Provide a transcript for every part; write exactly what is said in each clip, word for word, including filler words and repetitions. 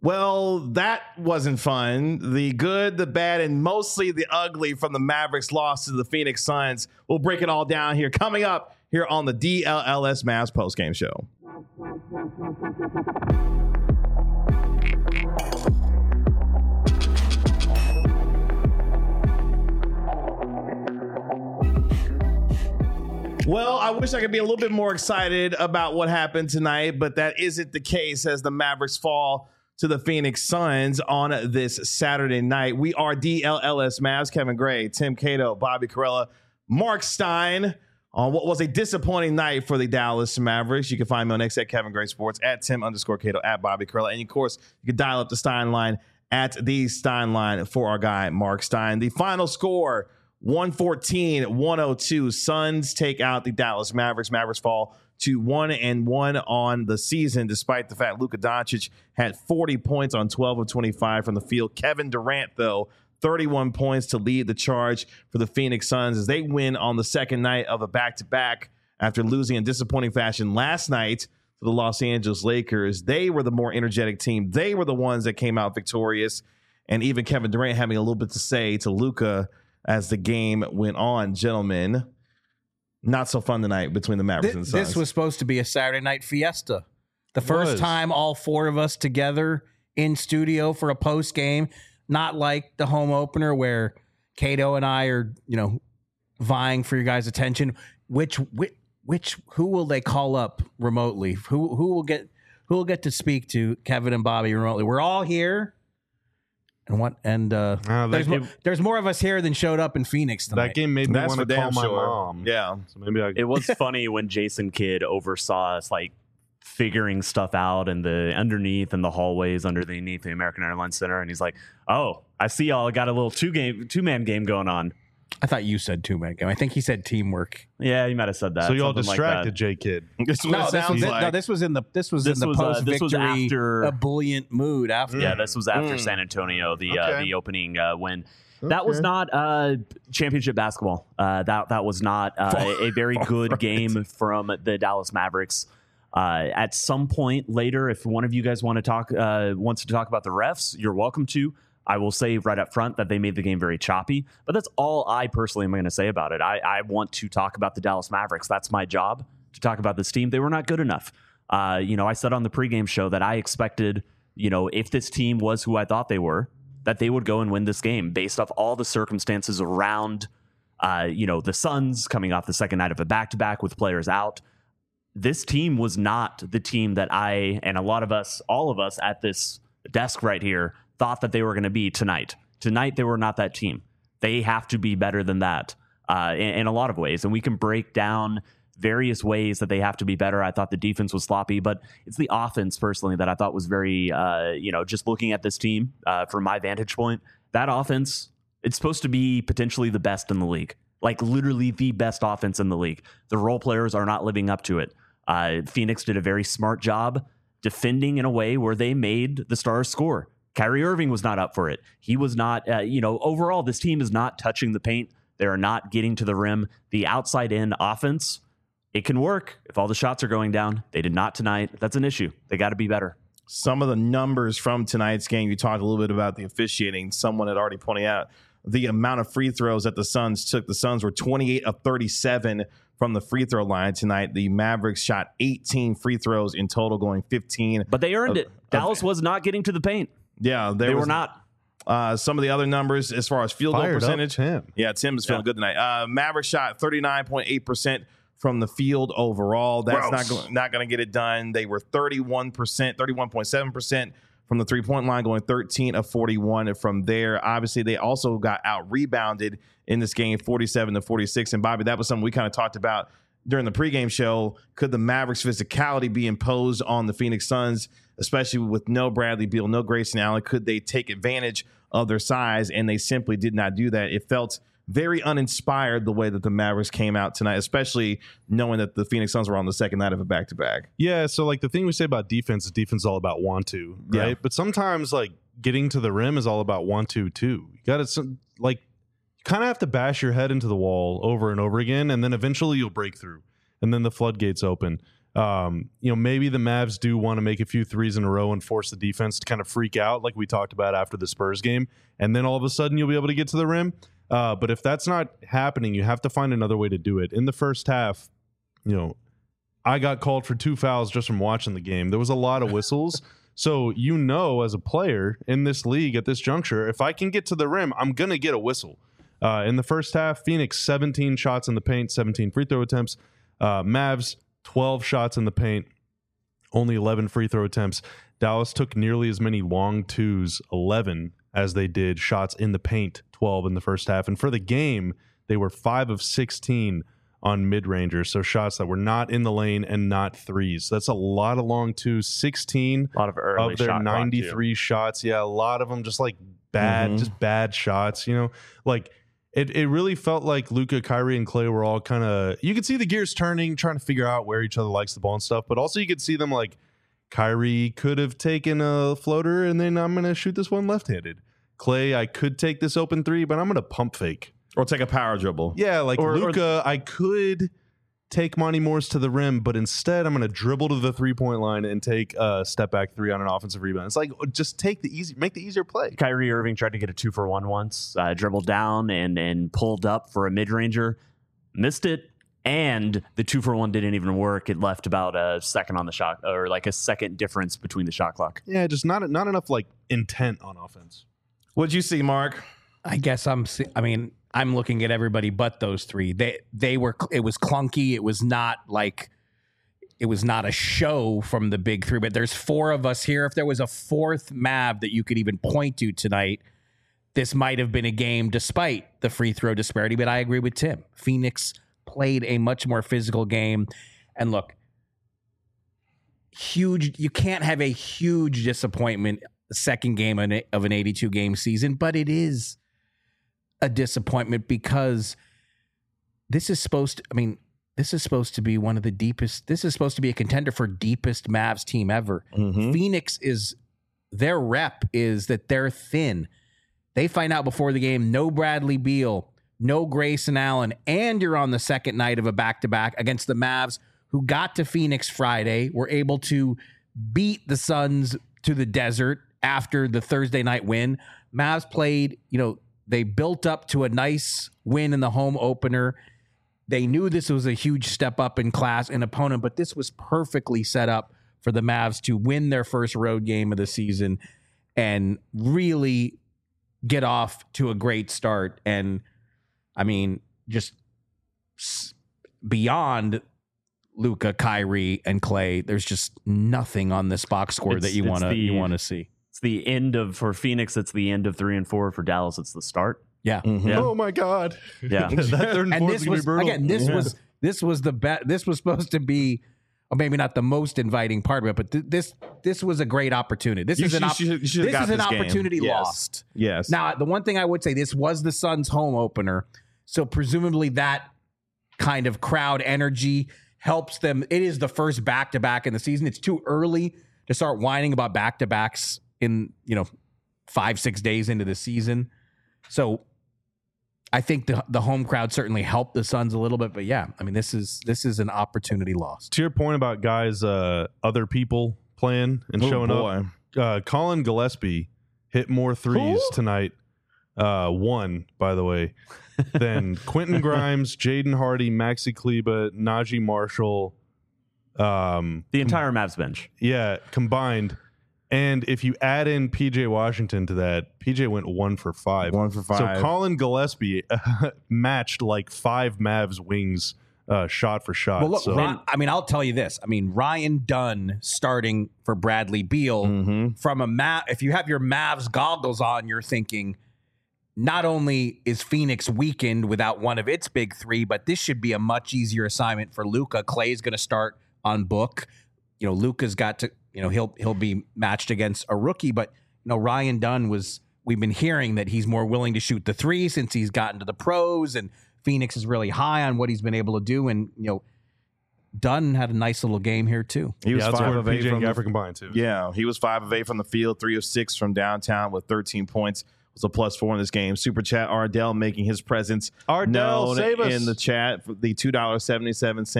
Well, that wasn't fun. The good, the bad, and mostly the ugly from the Mavericks loss to the Phoenix Suns. We'll break it all down here. Coming up here on the D L L S Mavs postgame show. Well, I wish I could be a little bit more excited about what happened tonight, but that isn't the case as the Mavericks fall to the Phoenix Suns on this Saturday night. We are D L L S Mavs. Kevin Gray, Tim Cato, Bobby Karalla, Mark Stein on what was a disappointing night for the Dallas Mavericks. You can find me on X at Kevin Gray Sports, at Tim underscore Cato, at Bobby Karalla. And of course, you can dial up the Stein line at the Stein line for our guy, Mark Stein. The final score, one fourteen one oh two. Suns take out the Dallas Mavericks. Mavericks fall to one and one on the season, despite the fact Luka Doncic had forty points on twelve of twenty-five from the field. Kevin Durant, though, thirty-one points to lead the charge for the Phoenix Suns as they win on the second night of a back-to-back after losing in disappointing fashion last night to the Los Angeles Lakers. They were the more energetic team. They were the ones that came out victorious, and even Kevin Durant having a little bit to say to Luka as the game went on. Gentlemen, not so fun tonight between the Mavericks Th- and the Suns. This was supposed to be a Saturday night fiesta. The first was. time all four of us together in studio for a post game, not like the home opener where Cato and I are, you know, vying for your guys' attention. Which, which, which, who will they call up remotely? Who, who will get, who will get to speak to Kevin and Bobby remotely? We're all here. And what? And uh, Uh, there's, that, mo- game, there's more of us here than showed up in Phoenix tonight. that game made me That's want for to call damn my sure. mom. Yeah. So maybe I. It was funny when Jason Kidd oversaw us like figuring stuff out in the underneath and the hallways underneath the American Airlines Center, and he's like, "Oh, I see y'all got a little two game two man game going on." I thought you said two man game. I think he said teamwork. Yeah, you might have said that. so you all something like distracted that. J Kid. This is what No, it this was, sounds thi- like. no, this was in the this was This in the was, uh, post this was victory after- ebullient mood after. Yeah, this was after Mm. San Antonio, the uh, Okay. the opening uh, win. That was Okay. not uh, championship basketball. Uh, that that was not uh, a, a very good game from the Dallas Mavericks. Uh, at some point later, if one of you guys want to talk uh, wants to talk about the refs, you're welcome to. I will say right up front that they made the game very choppy, but that's all I personally am going to say about it. I, I want to talk about the Dallas Mavericks. That's my job, to talk about this team. They were not good enough. Uh, you know, I said on the pregame show that I expected, you know, if this team was who I thought they were, that they would go and win this game based off all the circumstances around, uh, you know, the Suns coming off the second night of a back-to-back with players out. This team was not the team that I and a lot of us, all of us at this desk right here, thought that they were going to be tonight. Tonight, they were not that team. They have to be better than that uh, in, in a lot of ways. And we can break down various ways that they have to be better. I thought the defense was sloppy, but it's the offense personally that I thought was very, uh, you know, just looking at this team uh, from my vantage point, that offense, it's supposed to be potentially the best in the league, like literally the best offense in the league. The role players are not living up to it. Uh, Phoenix did a very smart job defending in a way where they made the Stars score. Kyrie Irving was not up for it. He was not, uh, you know, overall, this team is not touching the paint. They are not getting to the rim. The outside in offense, it can work if all the shots are going down. They did not tonight. That's an issue. They got to be better. Some of the numbers from tonight's game, you talked a little bit about the officiating. Someone had already pointed out the amount of free throws that the Suns took. The Suns were twenty-eight of thirty-seven from the free throw line tonight. The Mavericks shot eighteen free throws in total, going fifteen. But they earned of, it. Dallas of, was not getting to the paint. Yeah, They was, were not. Uh, some of the other numbers as far as field goal Fired up percentage. Tim. Yeah, Tim is feeling Yeah. good tonight. Uh, Mavericks shot thirty-nine point eight percent from the field overall. That's Gross. not go- not going to get it done. They were thirty-one percent, thirty-one point seven percent from the three-point line, going thirteen of forty-one from there. Obviously, they also got out-rebounded in this game, forty-seven to forty-six. And, Bobby, that was something we kind of talked about during the pregame show. Could the Mavericks' physicality be imposed on the Phoenix Suns, especially with no Bradley Beal, no Grayson Allen? Could they take advantage of their size? And they simply did not do that. It felt very uninspired the way that the Mavericks came out tonight, especially knowing that the Phoenix Suns were on the second night of a back-to-back. Yeah, so like the thing we say about defense is defense is all about want to, right? Yeah. But sometimes like getting to the rim is all about want to too. You got to like you kind of have to bash your head into the wall over and over again, and then eventually you'll break through, and then the floodgates open. Um, you know, maybe the Mavs do want to make a few threes in a row and force the defense to kind of freak out like we talked about after the Spurs game. And then all of a sudden you'll be able to get to the rim. Uh, but if that's not happening, you have to find another way to do it. In the first half, you know, I got called for two fouls just from watching the game. There was a lot of whistles. So, you know, as a player in this league at this juncture, if I can get to the rim, I'm going to get a whistle. Uh, in the first half, Phoenix, seventeen shots in the paint, seventeen free throw attempts. Uh, Mavs, twelve shots in the paint, only eleven free throw attempts. Dallas took nearly as many long twos, eleven, as they did shots in the paint, twelve in the first half. And for the game, they were five of sixteen on mid-rangers, so shots that were not in the lane and not threes. That's a lot of long twos, sixteen A lot of early of their shot ninety-three shots. Yeah, a lot of them just like bad, Mhm. just bad shots, you know? Like, It it really felt like Luka, Kyrie, and Klay were all kind of, you could see the gears turning, trying to figure out where each other likes the ball and stuff, but also you could see them like, Kyrie could have taken a floater and then I'm going to shoot this one left-handed. Klay, I could take this open three, but I'm going to pump fake. Or take a power dribble. Yeah, like Or- or- Luka, I could take Monty Morris to the rim, but instead I'm going to dribble to the three-point line and take a step-back three on an offensive rebound. It's like, just take the easy, make the easier play. Kyrie Irving tried to get a two for one once, uh, dribbled down and and pulled up for a mid ranger, missed it, and the two for one didn't even work. It left about a second on the shot, or like a second difference between the shot clock. Yeah, just not not enough like intent on offense. What'd you see, Mark? I guess I'm. se- I mean, I'm looking at everybody but those three. They they were. It was clunky. It was not like. It was not a show from the big three. But there's four of us here. If there was a fourth Mav that you could even point to tonight, this might have been a game despite the free throw disparity. But I agree with Tim. Phoenix played a much more physical game. And look, huge. You can't have a huge disappointment the second game of an eighty-two game season, but it is a disappointment because this is supposed to, I mean, this is supposed to be one of the deepest, this is supposed to be a contender for deepest Mavs team ever. Mm-hmm. Phoenix is, their rep is that they're thin. They find out before the game, no Bradley Beal, no Grayson Allen, and you're on the second night of a back-to-back against the Mavs, who got to Phoenix Friday, were able to beat the Suns to the desert after the Thursday night win. Mavs played, you know, they built up to a nice win in the home opener. They knew this was a huge step up in class and opponent, but this was perfectly set up for the Mavs to win their first road game of the season and really get off to a great start. And I mean, just beyond Luka, Kyrie, and Klay, there's just nothing on this box score It's- that you it's want to the- you want to see. It's the end of, for Phoenix, it's the end of three and four. For Dallas, it's the start. Yeah. Mhm. Yeah. Oh my God. Yeah. that third and, And fourth this is gonna was be brutal. again, this Yeah. was this was the bet. This was supposed to be, or maybe not the most inviting part of it, but th- this this was a great opportunity. This You is an should- op- you should- you should have this got is an this game. opportunity Yes. lost. Yes. Now, the one thing I would say, this was the Suns' home opener, so presumably that kind of crowd energy helps them. It is the first back to back in the season. It's too early to start whining about back to backs in, you know, five six days into the season. So I think the the home crowd certainly helped the Suns a little bit, but yeah, I mean, this is this is an opportunity lost. To your point about guys, uh, other people playing and Oh, showing boy. up, uh, Colin Gillespie hit more threes Who? tonight. Uh, one, by the way, than Quentin Grimes, Jaden Hardy, Maxi Kleba, Najee Marshall. Um, The entire Mavs bench. yeah, combined. And if you add in P J Washington to that, P J went one for five. One for five. So Colin Gillespie uh, matched like five Mavs wings uh, shot for shot. Well, look, so, Ry- I mean, I'll tell you this. I mean, Ryan Dunn starting for Bradley Beal Mhm. from a map. If you have your Mavs goggles on, you're thinking, not only is Phoenix weakened without one of its big three, but this should be a much easier assignment for Luka. Clay's going to start on Book. You know, Luka's got to, you know, he'll he'll be matched against a rookie, but you know, Ryan Dunn was. We've been hearing that he's more willing to shoot the three since he's gotten to the pros, and Phoenix is really high on what he's been able to do. And you know, Dunn had a nice little game here too. He was yeah, that's five where of P eight J from and the, Gafford combined too. Yeah, he was five of eight from the field, three of six from downtown with thirteen points. Was a plus four in this game. Super chat Ardell making his presence Ardell, known save us. in the chat for the two dollars and seventy-seven cent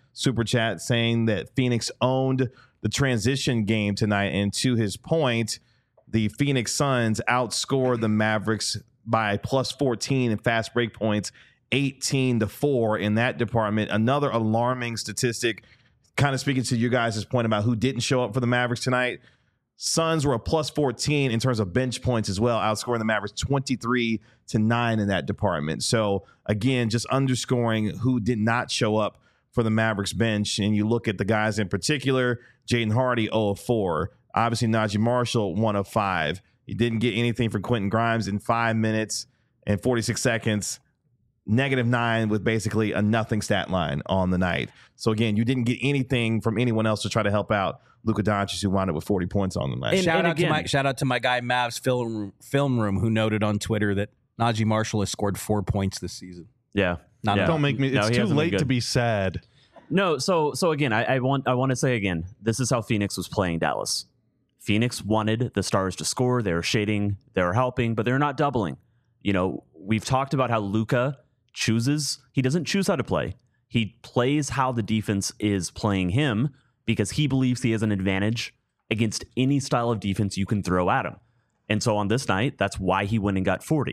super chat saying that Phoenix owned the transition game tonight. And to his point, the Phoenix Suns outscored the Mavericks by plus fourteen in fast break points, eighteen to four in that department. Another alarming statistic, kind of speaking to you guys' point about who didn't show up for the Mavericks tonight. Suns were a plus fourteen in terms of bench points as well, outscoring the Mavericks twenty-three to nine in that department. So again, just underscoring who did not show up for the Mavericks bench. And you look at the guys in particular, Jaden Hardy, zero of four. Obviously, Najee Marshall, one of five. You didn't get anything from Quentin Grimes in five minutes and forty-six seconds. Negative nine with basically a nothing stat line on the night. So again, you didn't get anything from anyone else to try to help out Luka Doncic, who wound up with forty points on the night. And, shout and out again, to my shout out to my guy Mavs film room, film room who noted on Twitter that Najee Marshall has scored four points this season. Yeah, Not yeah. Don't make me. No, It's he too hasn't been late to good. be sad. No, so so again, I, I want I want to say again, this is how Phoenix was playing Dallas. Phoenix wanted the Stars to score. They were shading, they were helping, but they're not doubling. You know, we've talked about how Luka chooses. He doesn't choose how to play. He plays how the defense is playing him because he believes he has an advantage against any style of defense you can throw at him. And so on this night, that's why he went and got forty.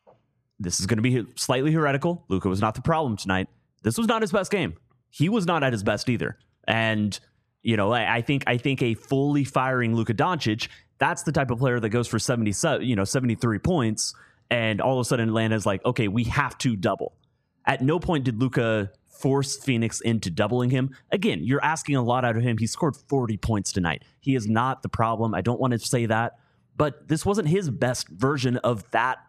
This is going to be slightly heretical. Luka was not the problem tonight. This was not his best game. He was not at his best either. And, you know, I, I think I think a fully firing Luka Doncic, that's the type of player that goes for seventy, you know, seventy-three points, and all of a sudden Atlanta's like, okay, we have to double. At no point did Luka force Phoenix into doubling him. Again, you're asking a lot out of him. He scored forty points tonight. He is not the problem. I don't want to say that, but this wasn't his best version of that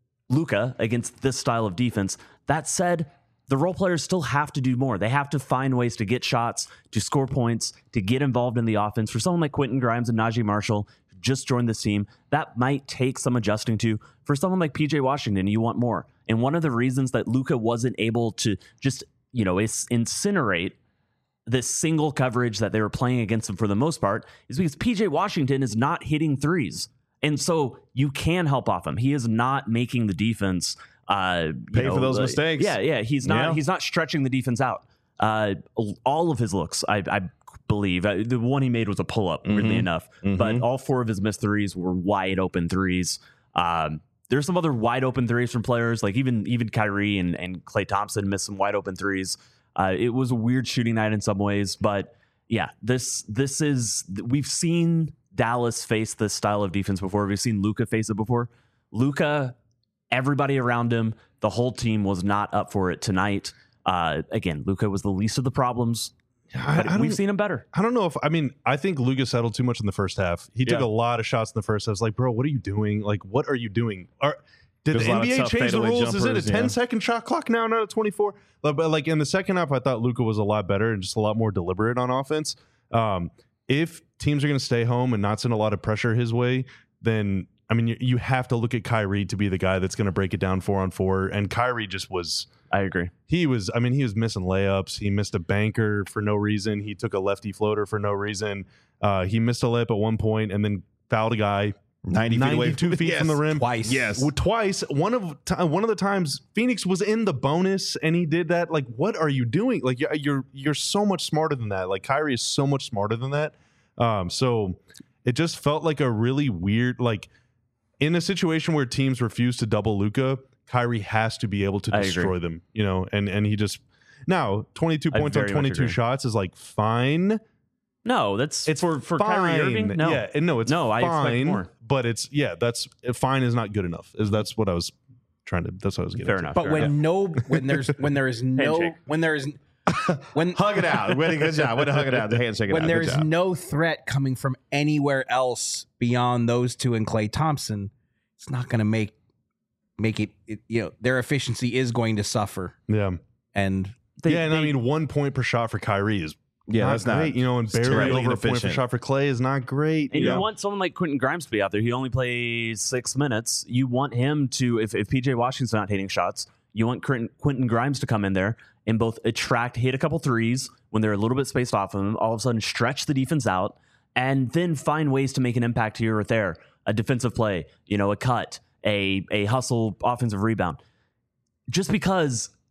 Luka against this style of defense. That said, the role players still have to do more. They have to find ways to get shots, to score points, to get involved in the offense. For someone like Quentin Grimes and Najee Marshall, who just joined this team, that might take some adjusting to. For someone like P J Washington, you want more. And one of the reasons that Luka wasn't able to just, you know, incinerate this single coverage that they were playing against him for the most part is because P J Washington is not hitting threes. And so you can help off him. He is not making the defense uh, you Pay know, for those uh, mistakes. Yeah, yeah. He's not. Yeah. He's not stretching the defense out. Uh, all of his looks, I, I believe, uh, the one he made was a pull up. Mm-hmm. Weirdly enough, Mm-hmm. but all four of his missed threes were wide open threes. Um, there's some other wide open threes from players like even even Kyrie and and Klay Thompson missed some wide open threes. Uh, it was a weird shooting night in some ways, but yeah, this this is we've seen Dallas face this style of defense before. We've seen Luka face it before. Luka, everybody around him, the whole team was not up for it tonight. Uh, again, Luka was the least of the problems. I, But I we've don't- seen him better. I don't know if I mean I think Luka settled too much in the first half. He took Yeah. a lot of shots in the first half. I was like, bro, what are you doing? Like, what are you doing? Are did There's the a lot N of B A tough change the fadeaway rules? Is it a jumpers, ten yeah. second shot clock now, not a twenty-four? But, but like in the second half, I thought Luka was a lot better and just a lot more deliberate on offense. Um, if teams are going to stay home and not send a lot of pressure his way, then I mean you, you have to look at Kyrie to be the guy that's going to break it down four on four. And Kyrie just was. I agree. He was, I mean, he was missing layups. He missed a banker for no reason. He took a lefty floater for no reason. Uh, he missed a layup at one point and then fouled a guy ninety feet away ninety-two feet Yes. from the rim. Twice. Yes. Well, twice. One of ti- one of the times Phoenix was in the bonus and he did that. Like, what are you doing? Like, you're you're, you're so much smarter than that. Like, Kyrie is so much smarter than that. Um, so it just felt like a really weird, like, in a situation where teams refuse to double Luka, Kyrie has to be able to I agree. destroy them, you know, and, and he just now twenty-two I points on very much twenty-two agree. shots is like fine. No, that's It's for for fine. Kyrie Irving. No, yeah, and no, it's No, I expect fine, more. but it's yeah, that's fine is not good enough. Is that's what I was trying to. That's what I was getting. fair to. enough. But fair when enough. no, when there's when there is no, Handshake. when there is when Hug it out. Way to good job. Way to hug it out. The handshake it when out. there Good is job. no threat coming from anywhere else beyond those two and Klay Thompson, it's not going to make make it, it. You know, their efficiency is going to suffer, Yeah, and They- yeah, and I they- mean, one point per shot for Kyrie is Yeah, not that's not great. You know, and it's barely terribly over a point per inefficient. shot for Clay is not great. And you you know? want someone like Quentin Grimes to be out there. He only plays six minutes. You want him to, if, if P J Washington's not hitting shots, you want Quentin, Quentin Grimes to come in there and both attract, hit a couple threes when they're a little bit spaced off of him, all of a sudden stretch the defense out, and then find ways to make an impact here or there. A defensive play, you know, a cut, a, a hustle offensive rebound. Just because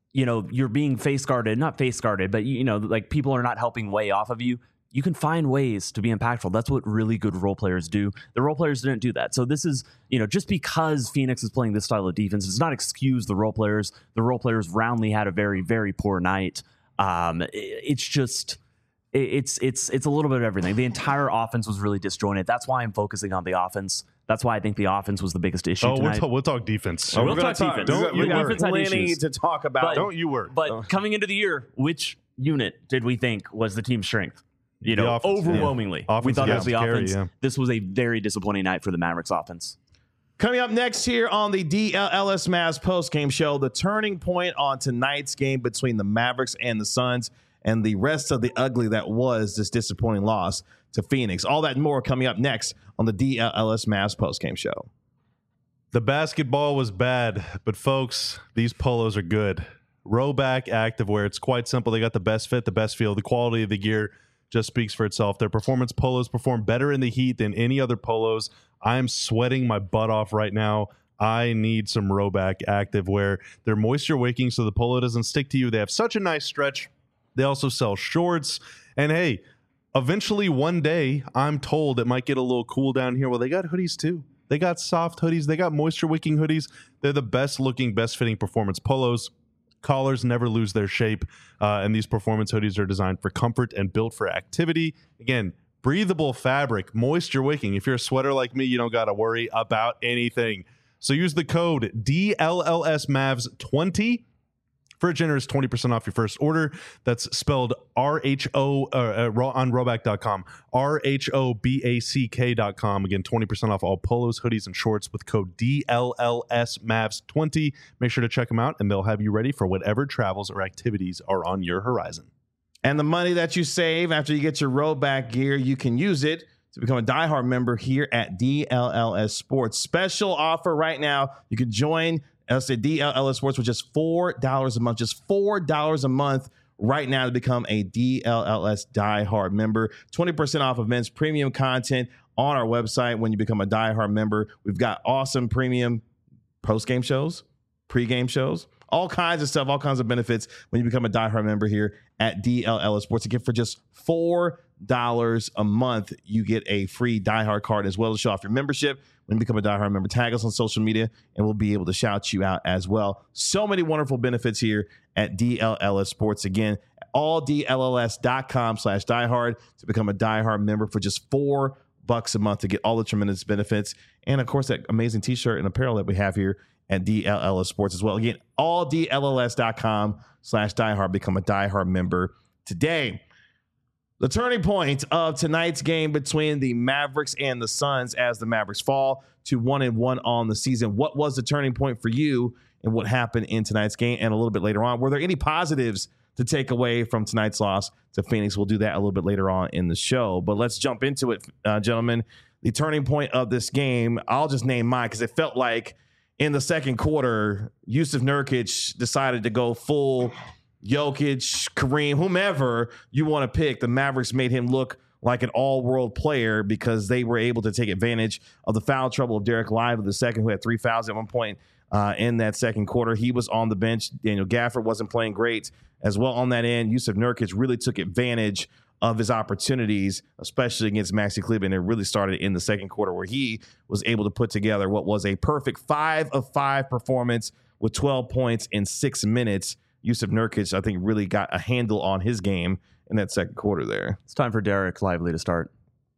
you know, you're being face guarded, not face guarded, but, you know, like people are not helping way off of you, you can find ways to be impactful. That's what really good role players do. The role players didn't do that. So this is, you know, just because Phoenix is playing this style of defense does not excuse the role players. The role players roundly had a very, very poor night. Um, it, it's just, it, it's it's it's a little bit of everything. The entire offense was really disjointed. That's why I'm focusing on the offense. That's why I think the offense was the biggest issue Oh, we'll, tonight. ta- we'll talk defense. Oh, We're we'll gonna talk defense. Don't we you got worry. Defense had plenty issues. to talk about. But- Don't you worry. But Oh. coming into the year, which unit did we think was the team's strength? You The know, offense, yeah. overwhelmingly. Offense we thought it was the against carry, offense. yeah. This was a very disappointing night for the Mavericks offense. Coming up next here on the D L L S Mavs postgame show, the turning point on tonight's game between the Mavericks and the Suns, and the rest of the ugly that was this disappointing loss to Phoenix. All that and more coming up next on the D L L S Mavs postgame show. The basketball was bad, but folks, these polos are good. Rowback Activewear. It's quite simple. They got the best fit, the best feel. The quality of the gear just speaks for itself. Their performance polos perform better in the heat than any other polos. I'm sweating my butt off right now. I need some Rowback Activewear. They're moisture wicking so the polo doesn't stick to you. They have such a nice stretch. They also sell shorts. And hey, eventually one day, I'm told it might get a little cool down here. Well, they got hoodies too. They got soft hoodies. They got moisture wicking hoodies. They're the best looking, best fitting performance polos. Collars never lose their shape. Uh, and these performance hoodies are designed for comfort and built for activity. Again, breathable fabric, moisture wicking. If you're a sweater like me, you don't got to worry about anything. So use the code D L L S Mavs twenty for a generous twenty percent off your first order. That's spelled R H O uh, uh, on rowback dot com. R H O B A C K dot com. Again, twenty percent off all polos, hoodies, and shorts with code D L L S Mavs twenty. Make sure to check them out, and they'll have you ready for whatever travels or activities are on your horizon. And the money that you save after you get your Rowback gear, you can use it to become a diehard member here at D L L S Sports. Special offer right now. You can join us at D L L S Sports for just four dollars a month. Just four dollars a month right now to become a D L L S diehard member. twenty percent off of men's premium content on our website when you become a diehard member. We've got awesome premium post-game shows, pre-game shows, all kinds of stuff, all kinds of benefits when you become a diehard member here at D L L S Sports. Again, for just four dollars a month, you get a free diehard card as well to show off your membership. When you become a diehard member, tag us on social media, and we'll be able to shout you out as well. So many wonderful benefits here at D L L S Sports. Again, all D L L S dot com slash diehard to become a diehard member for just four bucks a month to get all the tremendous benefits. And of course, that amazing t-shirt and apparel that we have here at D L L S Sports as well. Again, all D L L S dot com slash diehard. Become a diehard member today. The turning point of tonight's game between the Mavericks and the Suns as the Mavericks fall to one and one on the season. What was the turning point for you and what happened in tonight's game? And a little bit later on, were there any positives to take away from tonight's loss to Phoenix? We'll do that a little bit later on in the show. But let's jump into it, uh, gentlemen. The turning point of this game, I'll just name mine because it felt like in the second quarter, Yusuf Nurkic decided to go full Jokic, Kareem, whomever you want to pick. The Mavericks made him look like an all-world player because they were able to take advantage of the foul trouble of Derek Lively the second, who had three fouls at one point uh, in that second quarter. He was on the bench. Daniel Gafford wasn't playing great as well on that end. Yusuf Nurkic really took advantage of his opportunities, especially against Maxi Kleber, and it really started in the second quarter where he was able to put together what was a perfect five of five performance with twelve points in six minutes. Yusuf Nurkic, I think, really got a handle on his game in that second quarter there. It's time for Derek Lively to start.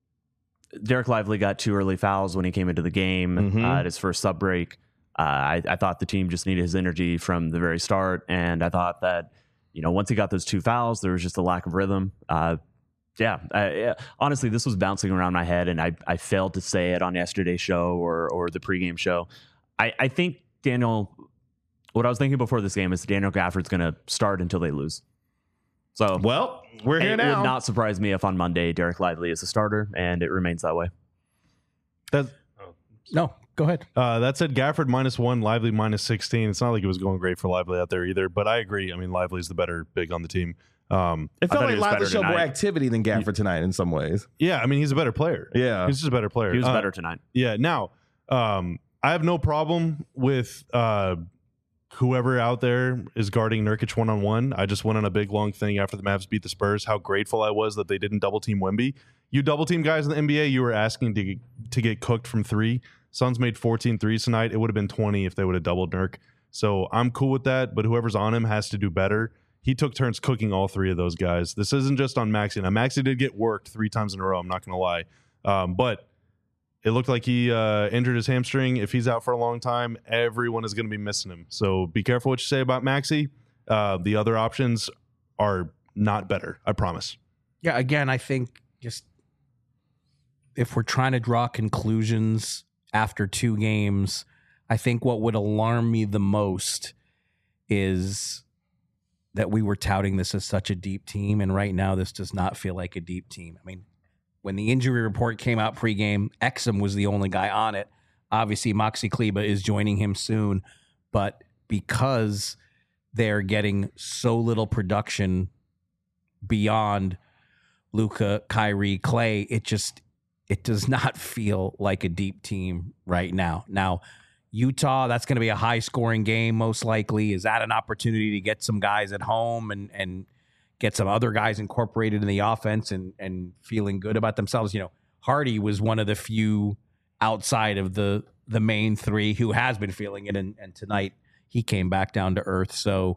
Derek Lively got two early fouls when he came into the game Mhm. uh, at his first sub break. Uh, I, I thought the team just needed his energy from the very start, and I thought that, you know, once he got those two fouls, there was just a lack of rhythm. Uh, yeah, uh, yeah, honestly, this was bouncing around my head, and I, I failed to say it on yesterday's show or or the pregame show. I, I think Daniel, what I was thinking before this game is Daniel Gafford's going to start until they lose. So, Well, we're here it now. would not surprise me if on Monday Derek Lively is a starter, and it remains that way. That, No, go ahead. uh, that said, Gafford minus one, Lively minus sixteen. It's not like it was going great for Lively out there either, but I agree. I mean, Lively's the better big on the team. Um, It I felt thought like he was Lively better showed more tonight. activity than Gafford tonight in some ways. yeah, I mean, he's a better player. Yeah. He's just a better player. He was Uh, better tonight. Yeah. Now, um, I have no problem with uh, whoever out there is guarding Nurkic one-on-one. I just went on a big, long thing after the Mavs beat the Spurs, how grateful I was that they didn't double-team Wemby. You double-team guys in the N B A, you were asking to, to get cooked from three. Suns made fourteen threes tonight. It would have been twenty if they would have doubled Nurk. So I'm cool with that, but whoever's on him has to do better. He took turns cooking all three of those guys. This isn't just on Maxey. Now, Maxey did get worked three times in a row, I'm not going to lie. Um, but it looked like he uh, injured his hamstring. If he's out for a long time, everyone is going to be missing him. So be careful what you say about Maxey. Uh, the other options are not better, I promise. Yeah, again, I think just if we're trying to draw conclusions after two games, I think what would alarm me the most is that we were touting this as such a deep team, and right now this does not feel like a deep team. I mean, when the injury report came out pregame, Exum was the only guy on it. Obviously, Maxi Kleber is joining him soon, but because they're getting so little production beyond Luka, Kyrie, Clay, it just it does not feel like a deep team right now. Now, Utah, that's going to be a high-scoring game, most likely. Is that an opportunity to get some guys at home and and get some other guys incorporated in the offense and and feeling good about themselves? You know, Hardy was one of the few outside of the the main three who has been feeling it, and, and tonight he came back down to earth. So,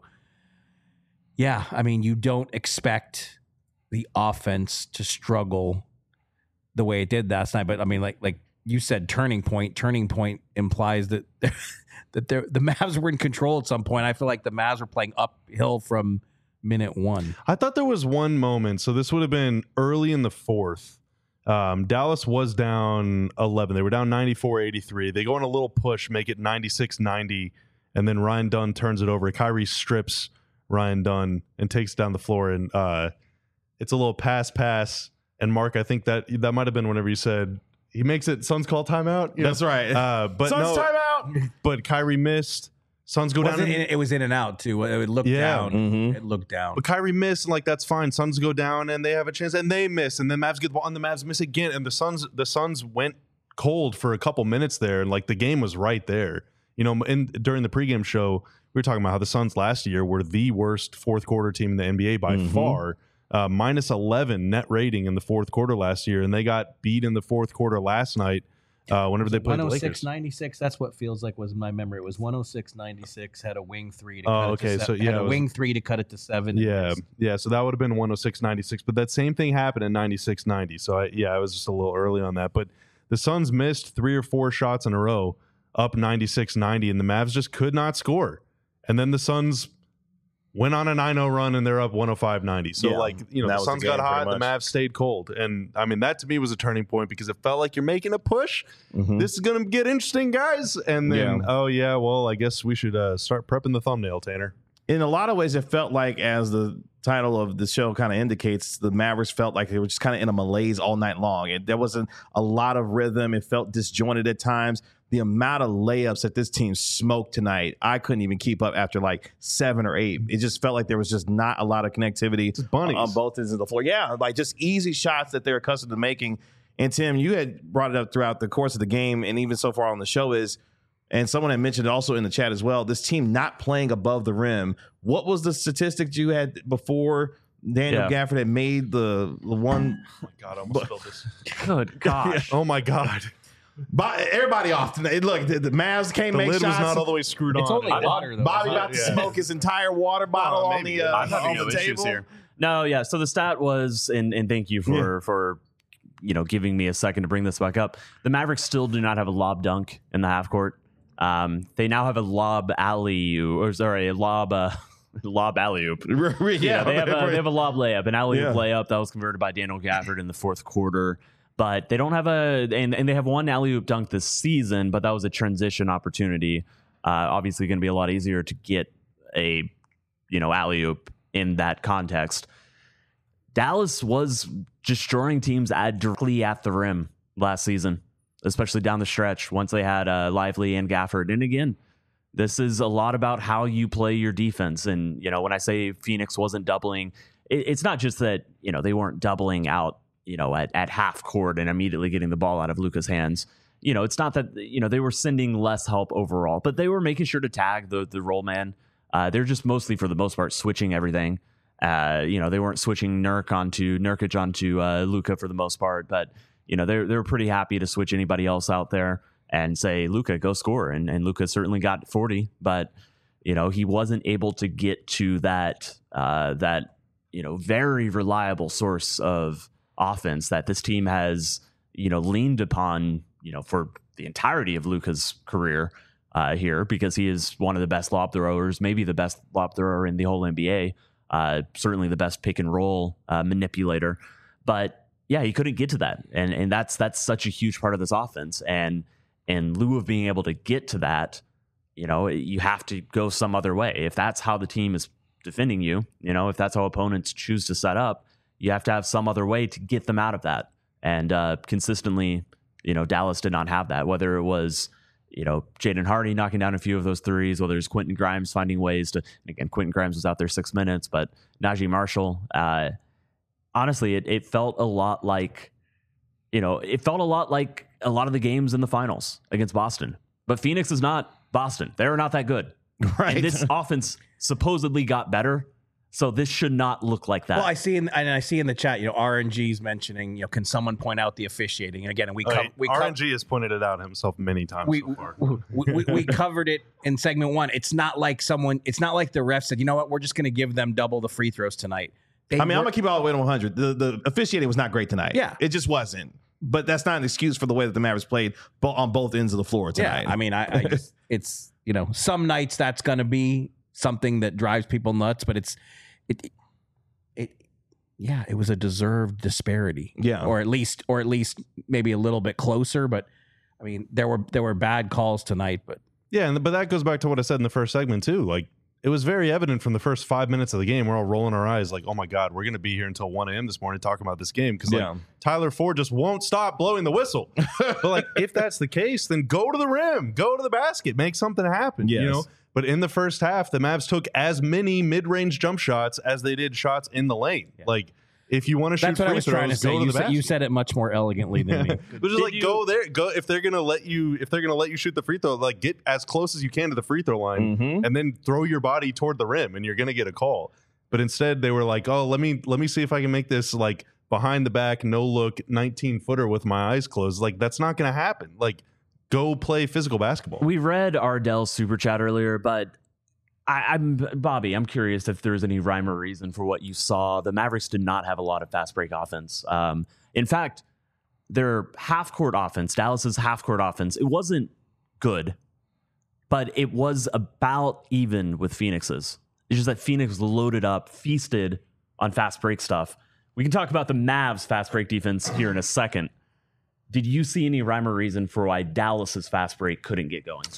yeah, I mean, you don't expect the offense to struggle the way it did last night, but I mean, like like. You said turning point. Turning point implies that that the Mavs were in control at some point. I feel like the Mavs were playing uphill from minute one. I thought there was one moment. So this would have been early in the fourth. Um, Dallas was down eleven. They were down ninety-four eighty-three. They go on a little push, make it ninety-six ninety, and then Ryan Dunn turns it over. Kyrie strips Ryan Dunn and takes down the floor. And uh, it's a little pass pass. And Mark, I think that that might have been whenever you said, he makes it Suns call timeout. That's know? right. Uh, but Suns no, timeout. But Kyrie missed. Suns go Was down. it, and, it was in and out too. It looked Yeah. down. Mhm. It looked down. but Kyrie missed, and like that's fine. Suns go down, and they have a chance, and they miss, and then Mavs get the ball, and the Mavs miss again, and the Suns the Suns went cold for a couple minutes there, and like the game was right there. You know, in during the pregame show, we were talking about how the Suns last year were the worst fourth quarter team in the N B A by Mhm. far. Uh, minus eleven net rating in the fourth quarter last year, and they got beat in the fourth quarter last night. Uh, whenever they played the Lakers. one oh six ninety-six, that's what feels like was my memory. It was one oh six ninety-six, had a wing three to Oh, cut okay, it to so, seven. yeah, had it a was- wing three to cut it to seven. Yeah, It's- yeah. So that would have been one oh six ninety-six, but that same thing happened in ninety-six ninety. So I, yeah, I was just a little early on that. But the Suns missed three or four shots in a row, up ninety-six ninety, and the Mavs just could not score. And then the Suns went on a nine oh run, and they're up one oh five ninety. So, Yeah, like, you know, that the was the Suns game, got hot, pretty the much. Mavs stayed cold. And, I mean, that to me was a turning point because it felt like you're making a push. Mhm. This is going to get interesting, guys. And then, Yeah. oh, yeah, well, I guess we should uh, start prepping the thumbnail, Tanner. In a lot of ways, it felt like, as the title of the show kind of indicates, the Mavericks felt like they were just kind of in a malaise all night long. And there wasn't a lot of rhythm. It felt disjointed at times. The amount of layups that this team smoked tonight, I couldn't even keep up after like seven or eight. It just felt like there was just not a lot of connectivity Just bunnies. on both ends of the floor. Yeah, like just easy shots that they're accustomed to making. And Tim, you had brought it up throughout the course of the game, and even so far on the show is, and someone had mentioned it also in the chat as well, this team not playing above the rim. What was the statistic you had before Daniel Yeah. Gafford had made the, the one? Oh, my God, I almost spilled this. Good gosh. Oh, my God. Bo- everybody off tonight. Look, the, the Mavs can't The make lid shots. was not all the way screwed It's on. only water, though. Bobby isn't about it? to Yeah. smoke his entire water bottle Oh, on maybe. the uh, I'm having on no the issues table. here. No, yeah. So the stat was, and and thank you for for you know giving me a second to bring this back up. The Mavericks still do not have a lob dunk in the half court. Um, they now have a lob alley, or sorry, a lob uh, lob alley oop. yeah, Yeah, they have a they have a lob layup, an alley oop Yeah. layup that was converted by Daniel Gafford in the fourth quarter. But they don't have a and, and they have one alley oop dunk this season, but that was a transition opportunity. Uh, obviously, going to be a lot easier to get a you know alley oop in that context. Dallas was destroying teams at directly at the rim last season, especially down the stretch once they had uh, Lively and Gafford. And again, this is a lot about how you play your defense. And, you know, when I say Phoenix wasn't doubling, it, it's not just that, you know, they weren't doubling out, you know, at, at half court and immediately getting the ball out of Luka's hands. you know, it's not that, you know, they were sending less help overall, but they were making sure to tag the the roll man. Uh, they're just mostly, for the most part, switching everything. Uh, you know, they weren't switching Nurk onto Nurkic onto uh, Luka for the most part, but you know, they're they're pretty happy to switch anybody else out there and say, Luka, go score. And and Luka certainly got forty, but you know, he wasn't able to get to that uh, that you know very reliable source of offense that this team has, you know, leaned upon, you know, for the entirety of Luka's career uh, here, because he is one of the best lob throwers, maybe the best lob thrower in the whole N B A. Uh, certainly the best pick and roll uh, manipulator, but yeah, he couldn't get to that, and and that's that's such a huge part of this offense. And in lieu of being able to get to that, you know, you have to go some other way. If that's how the team is defending you, you know, if that's how opponents choose to set up, you have to have some other way to get them out of that. And uh, consistently, you know, Dallas did not have that, whether it was, you know, Jaden Hardy knocking down a few of those threes, whether it's Quentin Grimes finding ways to, and again, Quentin Grimes was out there six minutes, but Najee Marshall, uh, honestly, it, it felt a lot like, you know, it felt a lot like a lot of the games in the finals against Boston. But Phoenix is not Boston. They're not that good. Right. And this offense supposedly got better. So this should not look like that. Well, I see in and I see in the chat, you know, R N G's mentioning, you know, can someone point out the officiating? And again, we Oh, co- hey, we co- R N G has pointed it out himself many times we, so far. we, we, we covered it in segment one. It's not like someone. It's not like the ref said, you know what, we're just going to give them double the free throws tonight. They I mean, were, I'm gonna keep it all the way to one hundred. The the officiating was not great tonight. Yeah. It just wasn't. But that's not an excuse for the way that the Mavericks played bo- on both ends of the floor tonight. Yeah, I mean, I, I just, it's, you know, some nights that's going to be something that drives people nuts, but it's it, it yeah, it was a deserved disparity. Yeah. Or at least or at least maybe a little bit closer, but I mean, there were there were bad calls tonight, but Yeah, and but that goes back to what I said in the first segment too. Like, it was very evident from the first five minutes of the game. We're all rolling our eyes like, oh my God, we're going to be here until one a.m. this morning talking about this game because like, Yeah. Tyler Ford just won't stop blowing the whistle. But like, if that's the case, then go to the rim, go to the basket, make something happen. You Yes. know. But in the first half, the Mavs took as many mid-range jump shots as they did shots in the lane. Like, if you want to shoot that's what free I was trying to throws, say. go to You the said, you basket. said it much more elegantly than me. But just Did like you- go there, go if they're gonna let you if they're gonna let you shoot the free throw, like get as close as you can to the free throw line, Mhm. and then throw your body toward the rim, and you're gonna get a call. But instead, they were like, "Oh, let me let me see if I can make this like behind the back, no look, nineteen footer with my eyes closed." Like that's not gonna happen. Like go play physical basketball. We read Ardell's super chat earlier, but I, I'm Bobby. I'm curious if there's any rhyme or reason for what you saw. The Mavericks did not have a lot of fast break offense. Um, in fact, their half court offense, Dallas's half court offense, it wasn't good, but it was about even with Phoenix's. It's just that Phoenix loaded up, feasted on fast break stuff. We can talk about the Mavs fast break defense here in a second. Did you see any rhyme or reason for why Dallas's fast break couldn't get going?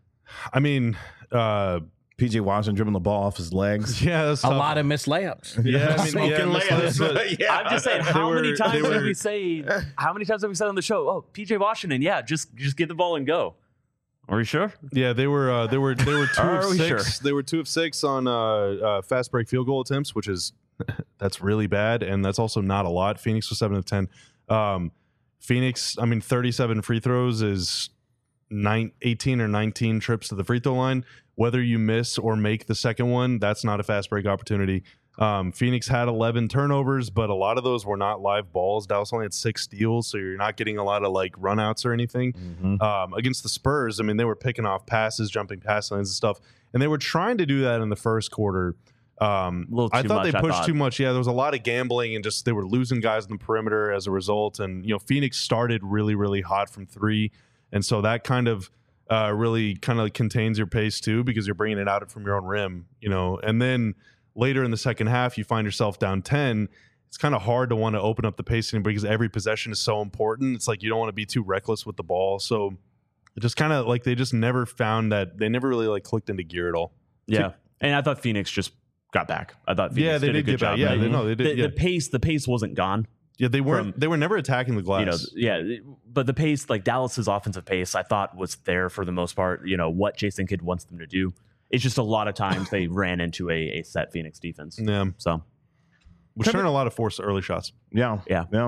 I mean, uh, P J Washington dribbling the ball off his legs. yeah, that's A tough. lot of missed layups. Yeah, I mean, Smoking yeah, layups. that's- Yeah. I'm just saying, They how were- many times they did were- we say? How many times have we said on the show? Oh, P J Washington, yeah, just just get the ball and go. Are you sure? Yeah, they were uh, they were they were two Are of we six. sure? They were two of six on uh, uh, fast break field goal attempts, which is that's really bad, and that's also not a lot. Phoenix was seven of ten. Um, Phoenix, I mean, thirty-seven free throws is nine, eighteen or nineteen trips to the free throw line. Whether you miss or make the second one, that's not a fast break opportunity. Um, Phoenix had eleven turnovers, but a lot of those were not live balls. Dallas only had six steals, so you're not getting a lot of like runouts or anything. Mhm. Um, against the Spurs, I mean, they were picking off passes, jumping pass lanes and stuff, and they were trying to do that in the first quarter. Um, A little I too thought much, they I pushed thought. too much. Yeah, there was a lot of gambling and just they were losing guys in the perimeter as a result. And you know, Phoenix started really, really hot from three, and so that kind of uh, really kind of contains your pace too because you're bringing it out from your own rim. You know, and then later in the second half, you find yourself down ten. It's kind of hard to want to open up the pacing because every possession is so important. It's like you don't want to be too reckless with the ball. So it just kind of like they just never found that they never really like clicked into gear at all. Yeah, and I thought Phoenix just got back. I thought Phoenix Yeah, they did, did a good get back. job. Yeah, They- they- no, they did, The, yeah. the pace, the pace wasn't gone. Yeah, they weren't. From- they were never attacking the glass. You know, yeah, but the pace, like Dallas's offensive pace, I thought was there for the most part. You know what Jason Kidd wants them to do. It's just a lot of times they ran into a, a set Phoenix defense. yeah, So which turned a lot of forced early shots. Yeah. Yeah. Yeah.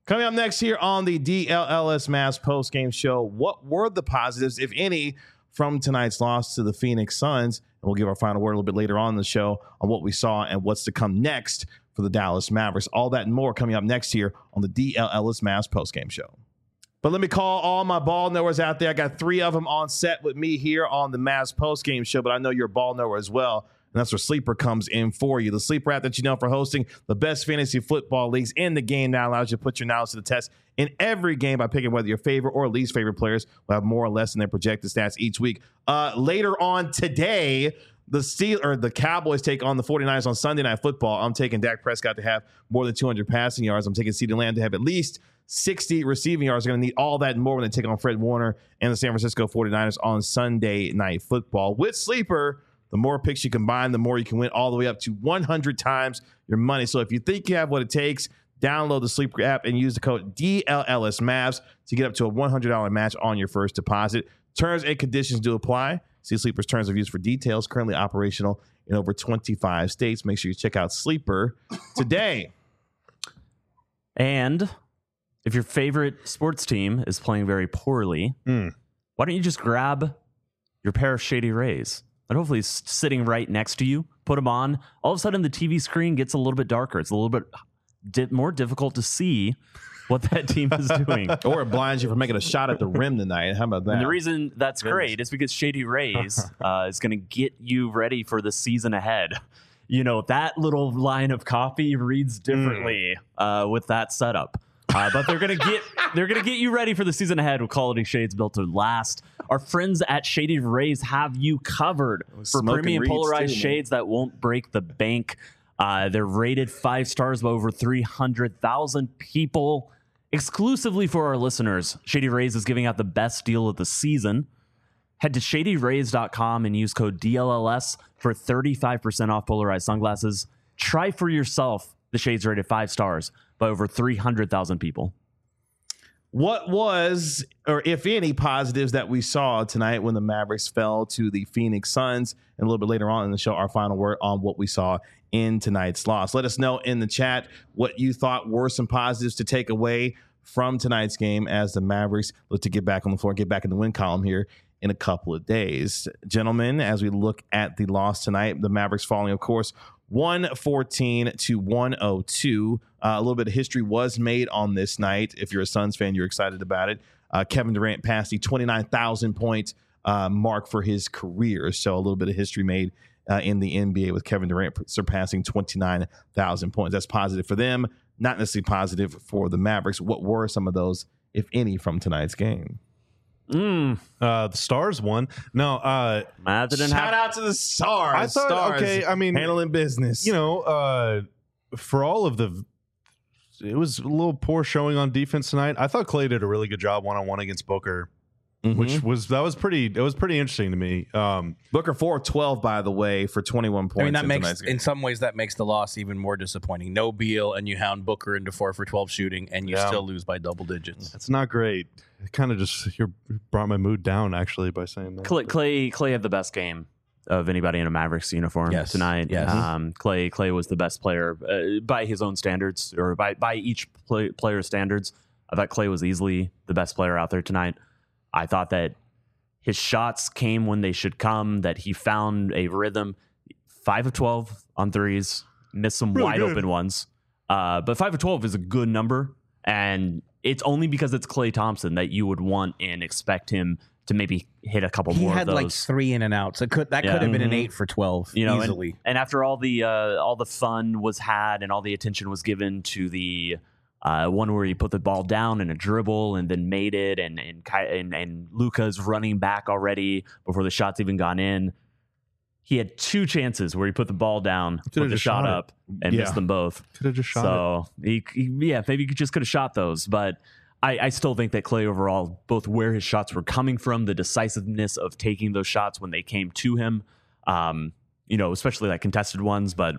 Coming up next here on the D L L S Mavs post-game show, what were the positives, if any, from tonight's loss to the Phoenix Suns? And we'll give our final word a little bit later on in the show on what we saw and what's to come next for the Dallas Mavericks. All that and more coming up next here on the D L L S Mavs post-game show. But let me call all my ball knowers out there. I got three of them on set with me here on the Mavs post-game show, but I know you're a ball knower as well. And that's where Sleeper comes in for you. The Sleeper app that you know for hosting the best fantasy football leagues in the game now allows you to put your knowledge to the test in every game by picking whether your favorite or least favorite players will have more or less than their projected stats each week. Uh, later on today, the Steel or the Cowboys take on the 49ers on Sunday Night Football. I'm taking Dak Prescott to have more than two hundred passing yards. I'm taking CeeDee Lamb to have at least sixty receiving yards. They're going to need all that and more when they take on Fred Warner and the San Francisco 49ers on Sunday Night Football. With Sleeper, the more picks you combine, the more you can win, all the way up to one hundred times your money. So if you think you have what it takes, download the Sleeper app and use the code D L L S Mavs to get up to a one hundred dollars match on your first deposit. Terms and conditions do apply. See Sleeper's terms of use for details. Currently operational in over twenty-five states. Make sure you check out Sleeper today. And if your favorite sports team is playing very poorly, Mm. why don't you just grab your pair of Shady Rays? And hopefully it's sitting right next to you. Put them on. All of a sudden, the T V screen gets a little bit darker. It's a little bit di- more difficult to see what that team is doing. Or it blinds you from making a shot at the rim tonight. How about that? And the reason that's great is because Shady Rays uh, is going to get you ready for the season ahead. You know, that little line of copy reads differently mm. uh, with that setup. Uh, but they're gonna get they're gonna get you ready for the season ahead with quality shades built to last. Our friends at Shady Rays have you covered for premium polarized too, shades that won't break the bank. Uh, they're rated five stars by over three hundred thousand people. Exclusively for our listeners, Shady Rays is giving out the best deal of the season. Head to shady rays dot com and use code D L L S for thirty-five percent off polarized sunglasses. Try for yourself the shades rated five stars by over three hundred thousand people. What was, or if any, positives that we saw tonight when the Mavericks fell to the Phoenix Suns? And a little bit later on in the show, our final word on what we saw in tonight's loss. Let us know in the chat what you thought were some positives to take away from tonight's game as the Mavericks look to get back on the floor, get back in the win column here in a couple of days. Gentlemen, as we look at the loss tonight, the Mavericks falling, of course, one fourteen to one oh two. Uh, a little bit of history was made on this night. If you're a Suns fan, you're excited about it. Uh, Kevin Durant passed the twenty-nine thousand point uh, mark for his career. So a little bit of history made uh, in the N B A with Kevin Durant surpassing twenty-nine thousand points. That's positive for them, not necessarily positive for the Mavericks. What were some of those, if any, from tonight's game? Mm. Uh, the Stars won. No, uh, Matt didn't Shout have- out to the Stars. I thought, Stars okay, I mean, handling business. you know, uh, for all of the, it was a little poor showing on defense tonight. I thought Clay did a really good job one on one against Booker, Mhm. which was that was pretty. It was pretty interesting to me. Um, Booker four of twelve, by the way, for twenty-one points. I mean, that in makes, tonight's game. in some ways, that makes the loss even more disappointing. No Beal, and you hound Booker into four for twelve shooting, and you Yeah. still lose by double digits. it's not great. It kind of just you brought my mood down actually by saying that. Clay, Clay Clay had the best game of anybody in a Mavericks uniform Yes. tonight. Yes. Um, Clay Clay was the best player uh, by his own standards, or by by each play, player's standards. I thought Clay was easily the best player out there tonight. I thought that his shots came when they should come, that he found a rhythm. five of twelve on threes, missed some Really wide good. open ones. Uh, but five of twelve is a good number, and it's only because it's Klay Thompson that you would want and expect him to maybe hit a couple He more had of those. like three in and outs. It could that Yeah. could have been an Mhm. eight for twelve You know, and- easily. And after all the uh, all the fun was had and all the attention was given to the uh, one where he put the ball down in a dribble and then made it, and and Ky- and, and Luka's running back already before the shots even gone in. He had two chances where he put the ball down, put the just shot shot it. up, and Yeah. missed them both. Could have just shot it. So he, he, yeah, maybe he just could have shot those, but I, I still think that Clay overall, both where his shots were coming from, the decisiveness of taking those shots when they came to him, um, you know, especially like contested ones, but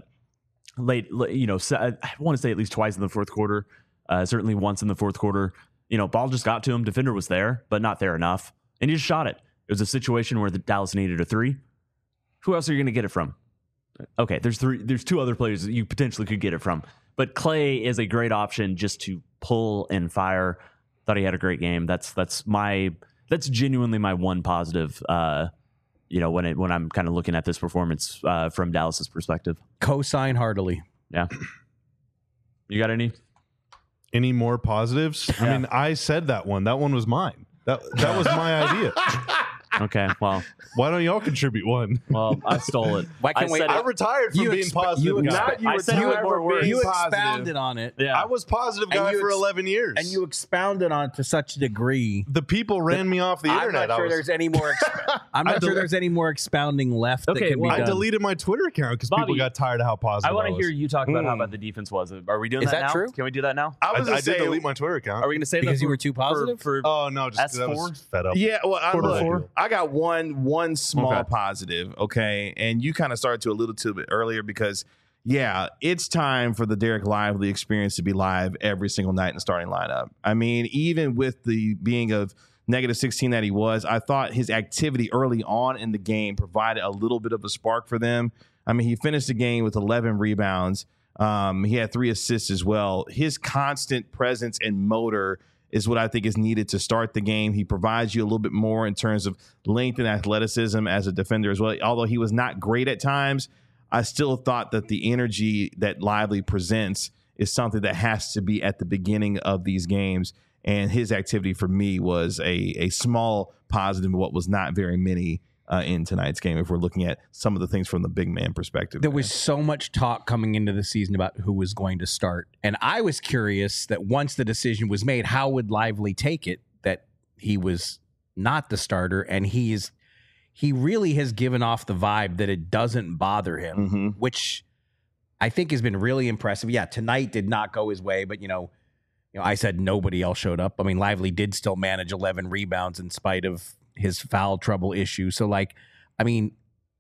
late, late you know, I want to say at least twice in the fourth quarter, uh, certainly once in the fourth quarter, you know, ball just got to him. Defender was there, but not there enough, and he just shot it. It was a situation where the Dallas needed a three. Who else are you going to get it from? Okay, there's three. There's two other players that you potentially could get it from, but Clay is a great option just to pull and fire. Thought he had a great game. That's that's my that's genuinely my one positive. Uh, you know, when it when I'm kind of looking at this performance uh, from Dallas's perspective. Co-sign heartily. Yeah. You got any? Any more positives? Yeah. I mean, I said that one. That one was mine. That that was my idea. Okay, well, Why don't y'all contribute one? well, I stole it. Why can't I we- said I it- retired from You being exp- positive. you guy. exp- you I said it with were more words. being You positive. expounded on it. Yeah. I was positive And guy you for ex- eleven years. And you expounded on it to such a degree. the people ran me off the I'm internet. not I sure was- there's any more. Exp- I'm I not sure del- there's any more expounding left Okay, that can well, be I done. deleted my Twitter account because people Bobby, got tired of how positive I want to was. hear you talk about how Mm. bad the defense was. Are we doing Is that, that now? true? Can we do that now? I I, was I gonna did say, delete my Twitter account. Are we going to save Because that you for- were too for- positive? For, oh no, just 'cause I S four? was fed up. Yeah, well, I, For look, four? I got one one small Okay. positive, okay, and you kind of started to a little too bit earlier because, yeah, it's time for the Derek Lively experience to be live every single night in the starting lineup. I mean, even with the being of negative sixteen that he was, I thought his activity early on in the game provided a little bit of a spark for them. I mean, he finished the game with eleven rebounds. Um, he had three assists as well. His constant presence and motor is what I think is needed to start the game. He provides you a little bit more in terms of length and athleticism as a defender as well. Although he was not great at times, I still thought that the energy that Lively presents is something that has to be at the beginning of these games. And his activity for me was a, a small positive of what was not very many uh, in tonight's game, if we're looking at some of the things from the big man perspective. There was so much talk coming into the season about who was going to start. And I was curious that once the decision was made, how would Lively take it that he was not the starter? And he is he really has given off the vibe that it doesn't bother him, Mm-hmm. which I think has been really impressive. Yeah, tonight did not go his way, but you know, you know, I said nobody else showed up. I mean, Lively did still manage eleven rebounds in spite of his foul trouble issue. So, like, I mean,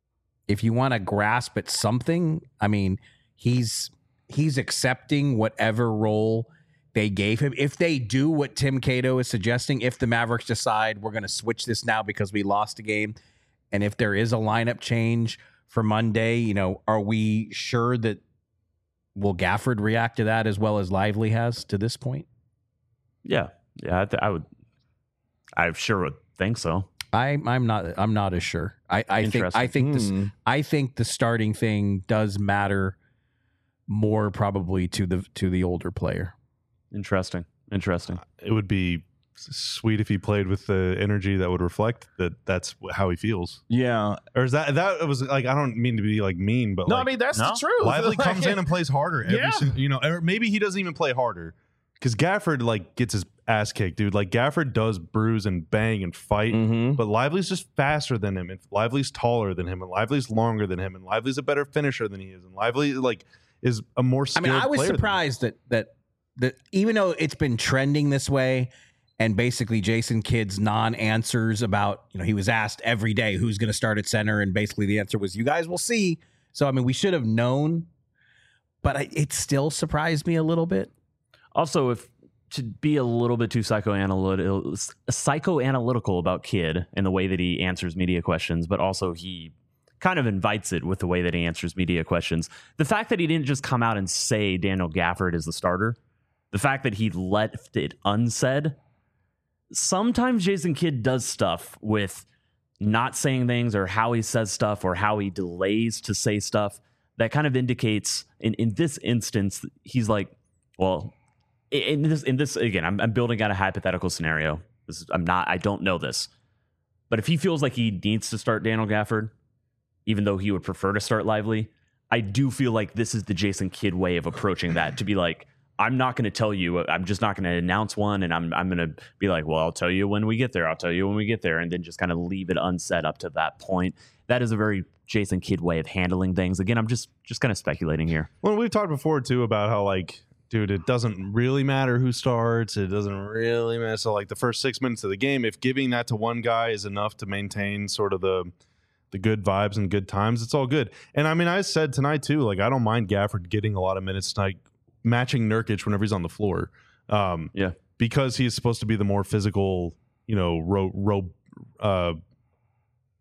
if you want to grasp at something, I mean, he's he's accepting whatever role they gave him. If they do what Tim Cato is suggesting, if the Mavericks decide we're going to switch this now because we lost a game, and if there is a lineup change for Monday, you know, are we sure that will Gafford react to that as well as Lively has to this point? Yeah, yeah, I, th- I would. I sure would think so. I, I'm not. I'm not as sure. I, I think. I think this. Hmm. I think the starting thing does matter more probably to the to the older player. Interesting. Interesting. It would be sweet if he played with the energy that would reflect that that's how he feels. Yeah. Or is that that was like, I don't mean to be like mean, but No, like, I mean, that's no? the truth. Lively Like, comes in and plays harder every Yeah. single, you know, or maybe he doesn't even play harder because Gafford like gets his ass kicked, dude. Like Gafford does bruise and bang and fight, Mhm. but Lively's just faster than him, and Lively's taller than him, and Lively's longer than him, and Lively's a better finisher than he is, and Lively like is a more I skilled mean, I was player than him. surprised that that that even though it's been trending this way, and basically Jason Kidd's non-answers about, you know, he was asked every day who's going to start at center, and basically the answer was, "You guys will see." So I mean, we should have known, but I, it still surprised me a little bit. Also, if to be a little bit too psychoanalytical, psychoanalytical about Kidd and the way that he answers media questions, but also he kind of invites it with the way that he answers media questions. The fact that he didn't just come out and say Daniel Gafford is the starter, the fact that he left it unsaid. Sometimes Jason Kidd does stuff with not saying things or how he says stuff or how he delays to say stuff that kind of indicates in, in this instance, he's like, well, in this, in this again, I'm, I'm building out a hypothetical scenario. This is, I'm not, I don't know this, but if he feels like he needs to start Daniel Gafford, even though he would prefer to start Lively, I do feel like this is the Jason Kidd way of approaching that, to be like, I'm not going to tell you, I'm just not going to announce one. And I'm, I'm going to be like, well, I'll tell you when we get there. I'll tell you when we get there. And then just kind of leave it unsaid up to that point. That is a very Jason Kidd way of handling things. Again, I'm just, just kind of speculating here. Well, we've talked before too about how like, dude, it doesn't really matter who starts. It doesn't really matter. So like the first six minutes of the game, if giving that to one guy is enough to maintain sort of the the good vibes and good times, it's all good. And I mean, I said tonight too, like I don't mind Gafford getting a lot of minutes tonight, matching Nurkic whenever he's on the floor. Um, Yeah. because he's supposed to be the more physical, you know, ro, ro, uh,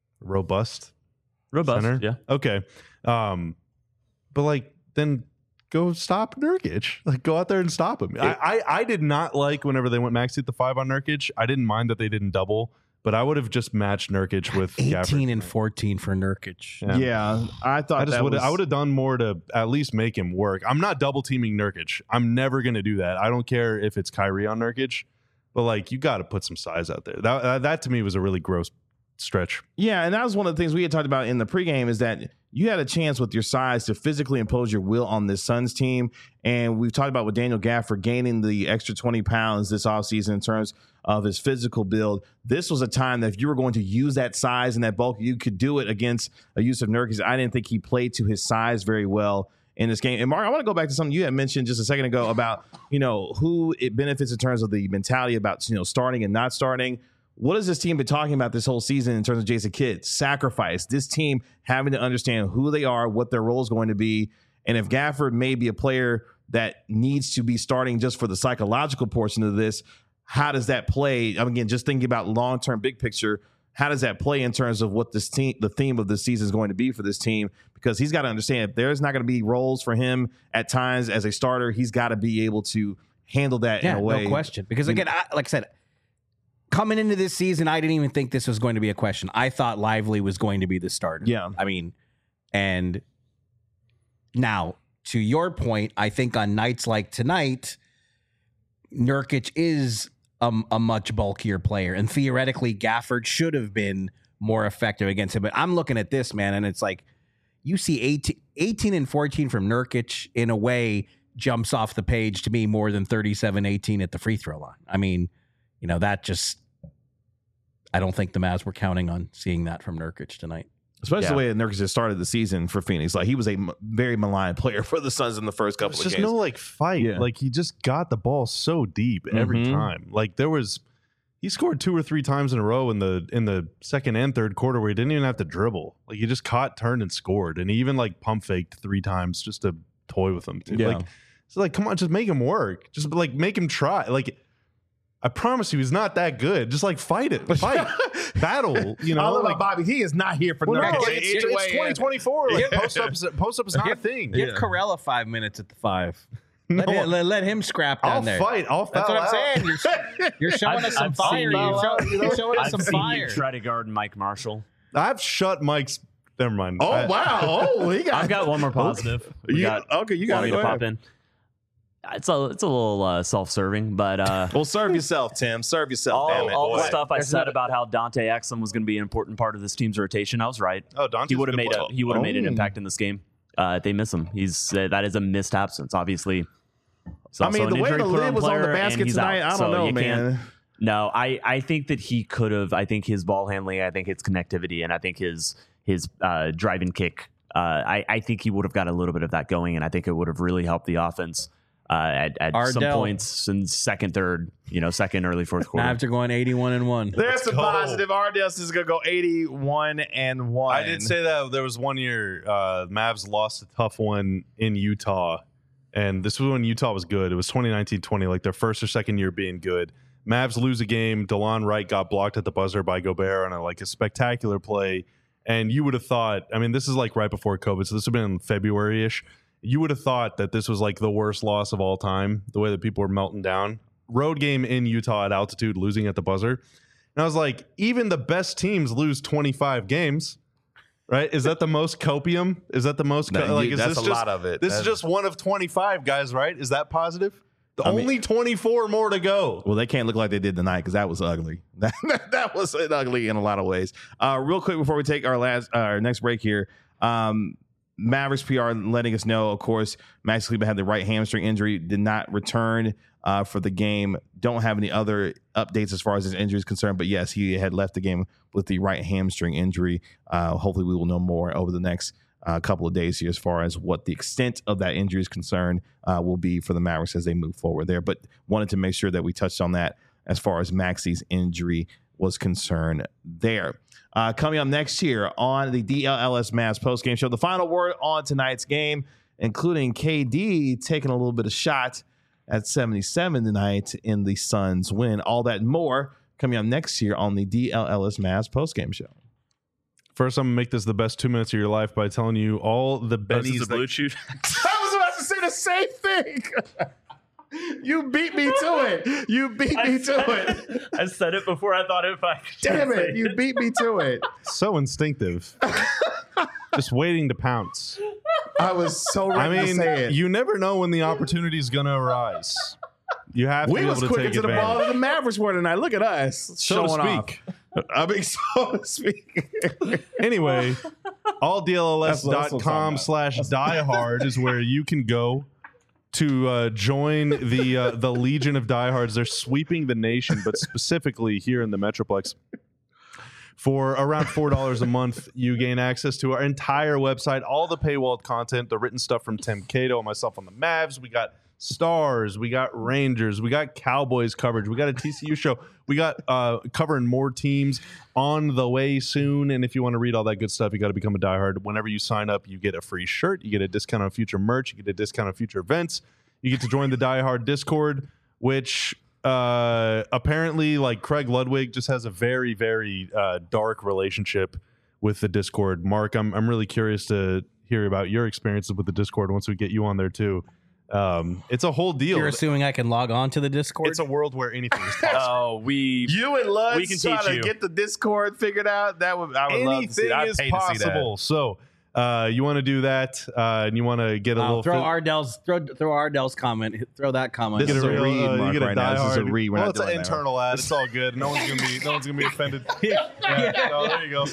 robust Robust. center. Yeah. Okay. Um, but like then go stop Nurkic. Like, go out there and stop him. I, I, I did not like whenever they went maxi at the five on Nurkic. I didn't mind that they didn't double, but I would have just matched Nurkic with eighteen Gafford. and fourteen for Nurkic. Yeah. Yeah, I thought I just that would was, I would have done more to at least make him work. I'm not double teaming Nurkic. I'm never going to do that. I don't care if it's Kyrie on Nurkic, but like you got to put some size out there. That uh, that to me was a really gross stretch. Yeah, and that was one of the things we had talked about in the pregame is that you had a chance with your size to physically impose your will on this Suns team. And we've talked about with Daniel Gafford gaining the extra twenty pounds this offseason in terms of his physical build. This was a time that if you were going to use that size and that bulk, you could do it against a Yusuf Nurkic. I didn't think he played to his size very well in this game. And Mark, I want to go back to something you had mentioned just a second ago about, you know, who it benefits in terms of the mentality about, you know, starting and not starting. What has this team been talking about this whole season in terms of Jason Kidd? Sacrifice. This team having to understand who they are, what their role is going to be. And if Gafford may be a player that needs to be starting just for the psychological portion of this, how does that play? I mean, again, just thinking about long-term big picture, how does that play in terms of what this team, the theme of this season is going to be for this team? Because he's got to understand if there's not going to be roles for him at times as a starter, he's got to be able to handle that Yeah, in a way. no question. Because again, I, like I said, coming into this season, I didn't even think this was going to be a question. I thought Lively was going to be the starter. Yeah. I mean, and now to your point, I think on nights like tonight, Nurkic is a, a much bulkier player, and theoretically, Gafford should have been more effective against him. But I'm looking at this, man, and it's like you see eighteen, eighteen and fourteen from Nurkic in a way jumps off the page to me more than thirty-seven eighteen at the free throw line. I mean, you know, that just, I don't think the Mavs were counting on seeing that from Nurkic tonight. Especially Yeah. the way that Nurkic has started the season for Phoenix. Like, he was a m- very maligned player for the Suns in the first couple It's of just games. no like fight. Yeah. Like he just got the ball so deep every Mhm. time. Like there was, he scored two or three times in a row in the in the second and third quarter where he didn't even have to dribble. Like he just caught, turned, and scored. And he even like pump faked three times just to toy with him. Too. Yeah. Like it's like, come on, just make him work. Just like make him try. Like I promise you, he's not that good. Just like fight it, fight, battle. You know, I love like, about Bobby. He is not here for well, no, Nurkic. it's, it's, Anyway, it's twenty twenty-four. Like post ups, post up is not a thing. Give Yeah. Corella five minutes at the five. No, Let, him, let, let him scrap down I'll there. fight. I'll That's foul what I'm out. saying. You're, you're showing I've- us some I've fire. seen You're, you- show, you're showing us I've some seen fire. you try to guard Mike Marshall. I've shut Mike's. Never mind. Oh, I- wow. Oh, he got I've got one more positive. We You, got okay, you got want it. me Go to ahead. pop in. It's a it's a little uh, self-serving, but uh, Well, serve yourself, Tim. Serve yourself. all, damn it. all the Boy. stuff I There's said not- about how Dante Exum was going to be an important part of this team's rotation, I was right. Oh, Dante's He would have a good made a player. he would have made an Oh. impact in this game. Uh, they miss him. He's uh, that is a missed absence, obviously. It's I also mean, an the way the injury-prone lid was on the player, and basket he's tonight, out. I So don't know, you can't- man. No, I, I think that he could have. I think his ball handling, I think his connectivity, and I think his his uh, drive and kick. Uh, I, I think he would have got a little bit of that going, and I think it would have really helped the offense uh, at, at some Ardell. points in second, third, you know, second, early fourth quarter. Mavs are going eighty-one and one. There's some go. positive. Ardiles is going to go eighty-one and one. I did say that there was one year uh, Mavs lost a tough one in Utah, and this was when Utah was good. It was twenty nineteen twenty, like their first or second year being good. Mavs lose a game. DeLon Wright got blocked at the buzzer by Gobert on a, like a spectacular play. And you would have thought, I mean, this is like right before COVID, so this would have been in February-ish. You would have thought that this was like the worst loss of all time, the way that people were melting down. Road game in Utah at altitude, losing at the buzzer. And I was like, even the best teams lose twenty-five games, right? Is that the most copium? Is that the most? No, co- like, you- is that's this a just, lot of it. This is That's- just one of twenty-five, guys, right? Is that positive? The I mean- only twenty-four more to go. Well, they can't look like they did tonight because that was ugly. That, that was ugly in a lot of ways. Uh, real quick before we take our last uh, our next break here, um, Mavericks P R letting us know, of course, Max Kleber had the right hamstring injury, did not return uh, for the game. Don't have any other updates as far as his injury is concerned, but yes, he had left the game with the right hamstring injury. Uh, hopefully, we will know more over the next a couple of days here as far as what the extent of that injury is concerned uh, will be for the Mavericks as they move forward there. But wanted to make sure that we touched on that as far as Maxi's injury was concerned there. Uh, coming up next here on the D L L S Mavs postgame show, the final word on tonight's game, including K D taking a little bit of shot at seventy-seven tonight in the Suns win. All that and more coming up next here on the D L L S Mavs postgame show. First, I'm gonna make this the best two minutes of your life by telling you all the bennies. Is this a that- blue chew? I was about to say the same thing. You beat me to it. You beat me to it. I said it before I thought if I could Damn say it. You beat me to it. So instinctive. Just waiting to pounce. I was so ready I mean, to say it. you never know when the opportunity is going to arise. You have to we be able was to quicker take to the ball advantage. than the Mavericks were tonight. Look at us. So to showing speak. off. I mean, so to speak. Anyway, all D L L S That's what- that's dot what I'm com talking slash diehard is where you can go to uh, join the uh, the Legion of Diehards. They're sweeping the nation, but specifically here in the Metroplex. For around four dollars a month, you gain access to our entire website, all the paywalled content, the written stuff from Tim Cato and myself on the Mavs. We got Stars, we got Rangers, we got Cowboys coverage, we got a T C U show, we got uh, covering more teams on the way soon. And if you want to read all that good stuff, you got to become a diehard. Whenever you sign up, you get a free shirt, you get a discount on future merch, you get a discount on future events, you get to join the diehard Discord, which uh, apparently, like Craig Ludwig, just has a very, very uh, dark relationship with the Discord. Mark, I'm I'm really curious to hear about your experiences with the Discord once we get you on there too. Um, it's a whole deal. You're assuming I can log on to the Discord? It's a world where anything is possible. Oh, we You and Lutz We can trying teach to you. get the Discord figured out. That would I would love to see. Anything I'd is pay to see that. possible. So uh, you want to do that, uh, and you want to get a I'll little throw fit- Ardell's throw throw Ardell's comment. Throw that comment. This get is a a real, read, uh, Mark, you get a right now. This is a diehard- read. We're well, not it's an doing that. internal ad. It's all good. No one's gonna be no one's gonna be offended. Yeah, no, there you go.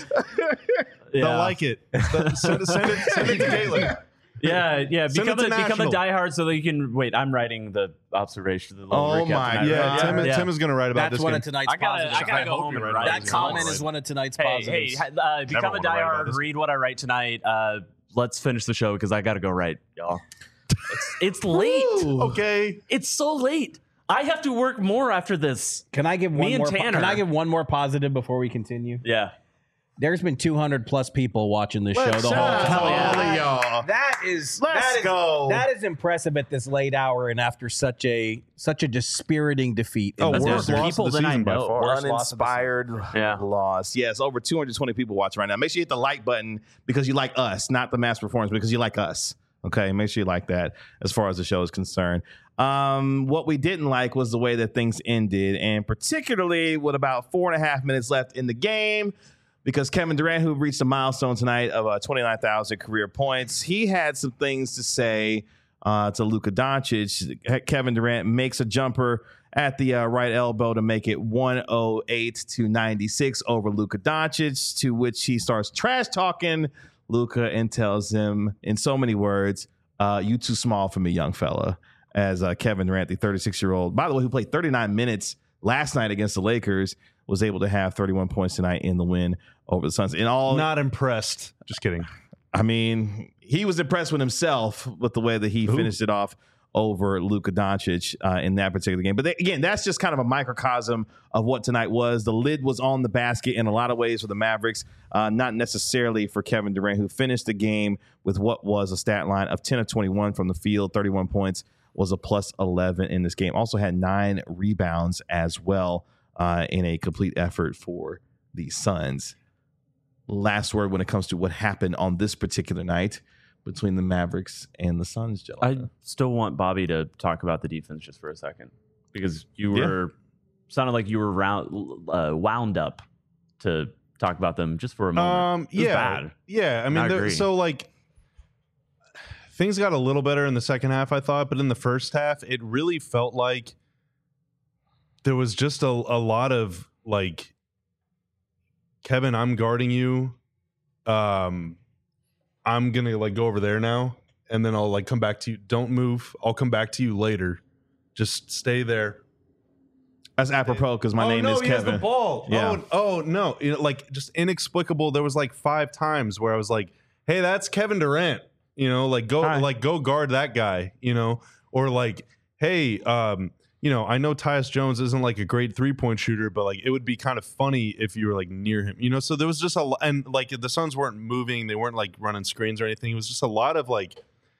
yeah. They'll like it. Send, send it. Send it. Send it to Galen. Yeah, yeah. Send Become it a, to become a National. diehard so that you can wait. I'm writing the observation. The little Oh recap my tonight, Yeah, right? Tim, yeah. Tim is gonna write about That's this one game. of tonight's I gotta, positives. I gotta I go hope home you're and right write. about that this. comment Honestly. is one of tonight's Hey, positives. hey, uh, become a wanna write about diehard. this. Read what I write tonight. Uh, let's finish the show because I gotta go write, y'all. It's, it's late. Okay. It's so late. I have to work more after this. Can I give one Me and more? po- Tanner. Can I give one more positive before we continue? Yeah. There's been two hundred plus people watching this show Let's the whole shout out to time. all of y'all. That is Let's that is, go. That is impressive at this late hour and after such a such a dispiriting defeat. in Oh, the worst desert. loss people of the that I season by know. far. Worst loss of the Uninspired Yeah. loss. Yes, over two hundred twenty people watching right now. Make sure you hit the like button because you like us, not the mass performance, because you like us. Okay, make sure you like that as far as the show is concerned. Um, what we didn't like was the way that things ended, and particularly with about four and a half minutes left in the game, because Kevin Durant, who reached a milestone tonight of uh, twenty-nine thousand career points, he had some things to say uh, to Luka Doncic. Kevin Durant makes a jumper at the uh, right elbow to make it one oh eight to ninety-six over Luka Doncic, to which he starts trash talking Luka and tells him in so many words, uh, you too small for me, young fella. As uh, Kevin Durant, the thirty-six-year-old, by the way, who played thirty-nine minutes last night against the Lakers, was able to have thirty-one points tonight in the win over the Suns. In all, Not impressed. Just kidding. I mean, he was impressed with himself with the way that he Ooh. finished it off over Luka Doncic uh, in that particular game. But they, again, that's just kind of a microcosm of what tonight was. The lid was on the basket in a lot of ways for the Mavericks, uh, not necessarily for Kevin Durant, who finished the game with what was a stat line of ten of twenty-one from the field, thirty-one points, was a plus eleven in this game. Also had nine rebounds as well uh, in a complete effort for the Suns. Last word when it comes to what happened on this particular night between the Mavericks and the Suns, I gentlemen. still want Bobby to talk about the defense just for a second because you Yeah. were sounded like you were round, uh, wound up to talk about them just for a moment. Um, It was yeah, bad. yeah. I mean, I there- agree. so like things got a little better in the second half, I thought, but in the first half, it really felt like there was just a, a lot of like, Kevin, I'm guarding you. Um, I'm gonna like go over there now, and then I'll like come back to you. Don't move. I'll come back to you later. Just stay there. That's apropos because my oh, name no, is he has Kevin. the ball. Yeah. Oh, oh no, you know, like just inexplicable. There was like five times where I was like, "Hey, that's Kevin Durant." You know, like go, Hi. like go guard that guy. You know, or like, hey, um, you know, I know Tyus Jones isn't like a great three point shooter, but like it would be kind of funny if you were like near him. You know, so there was just a lo- and like the Suns weren't moving, they weren't like running screens or anything. It was just a lot of like.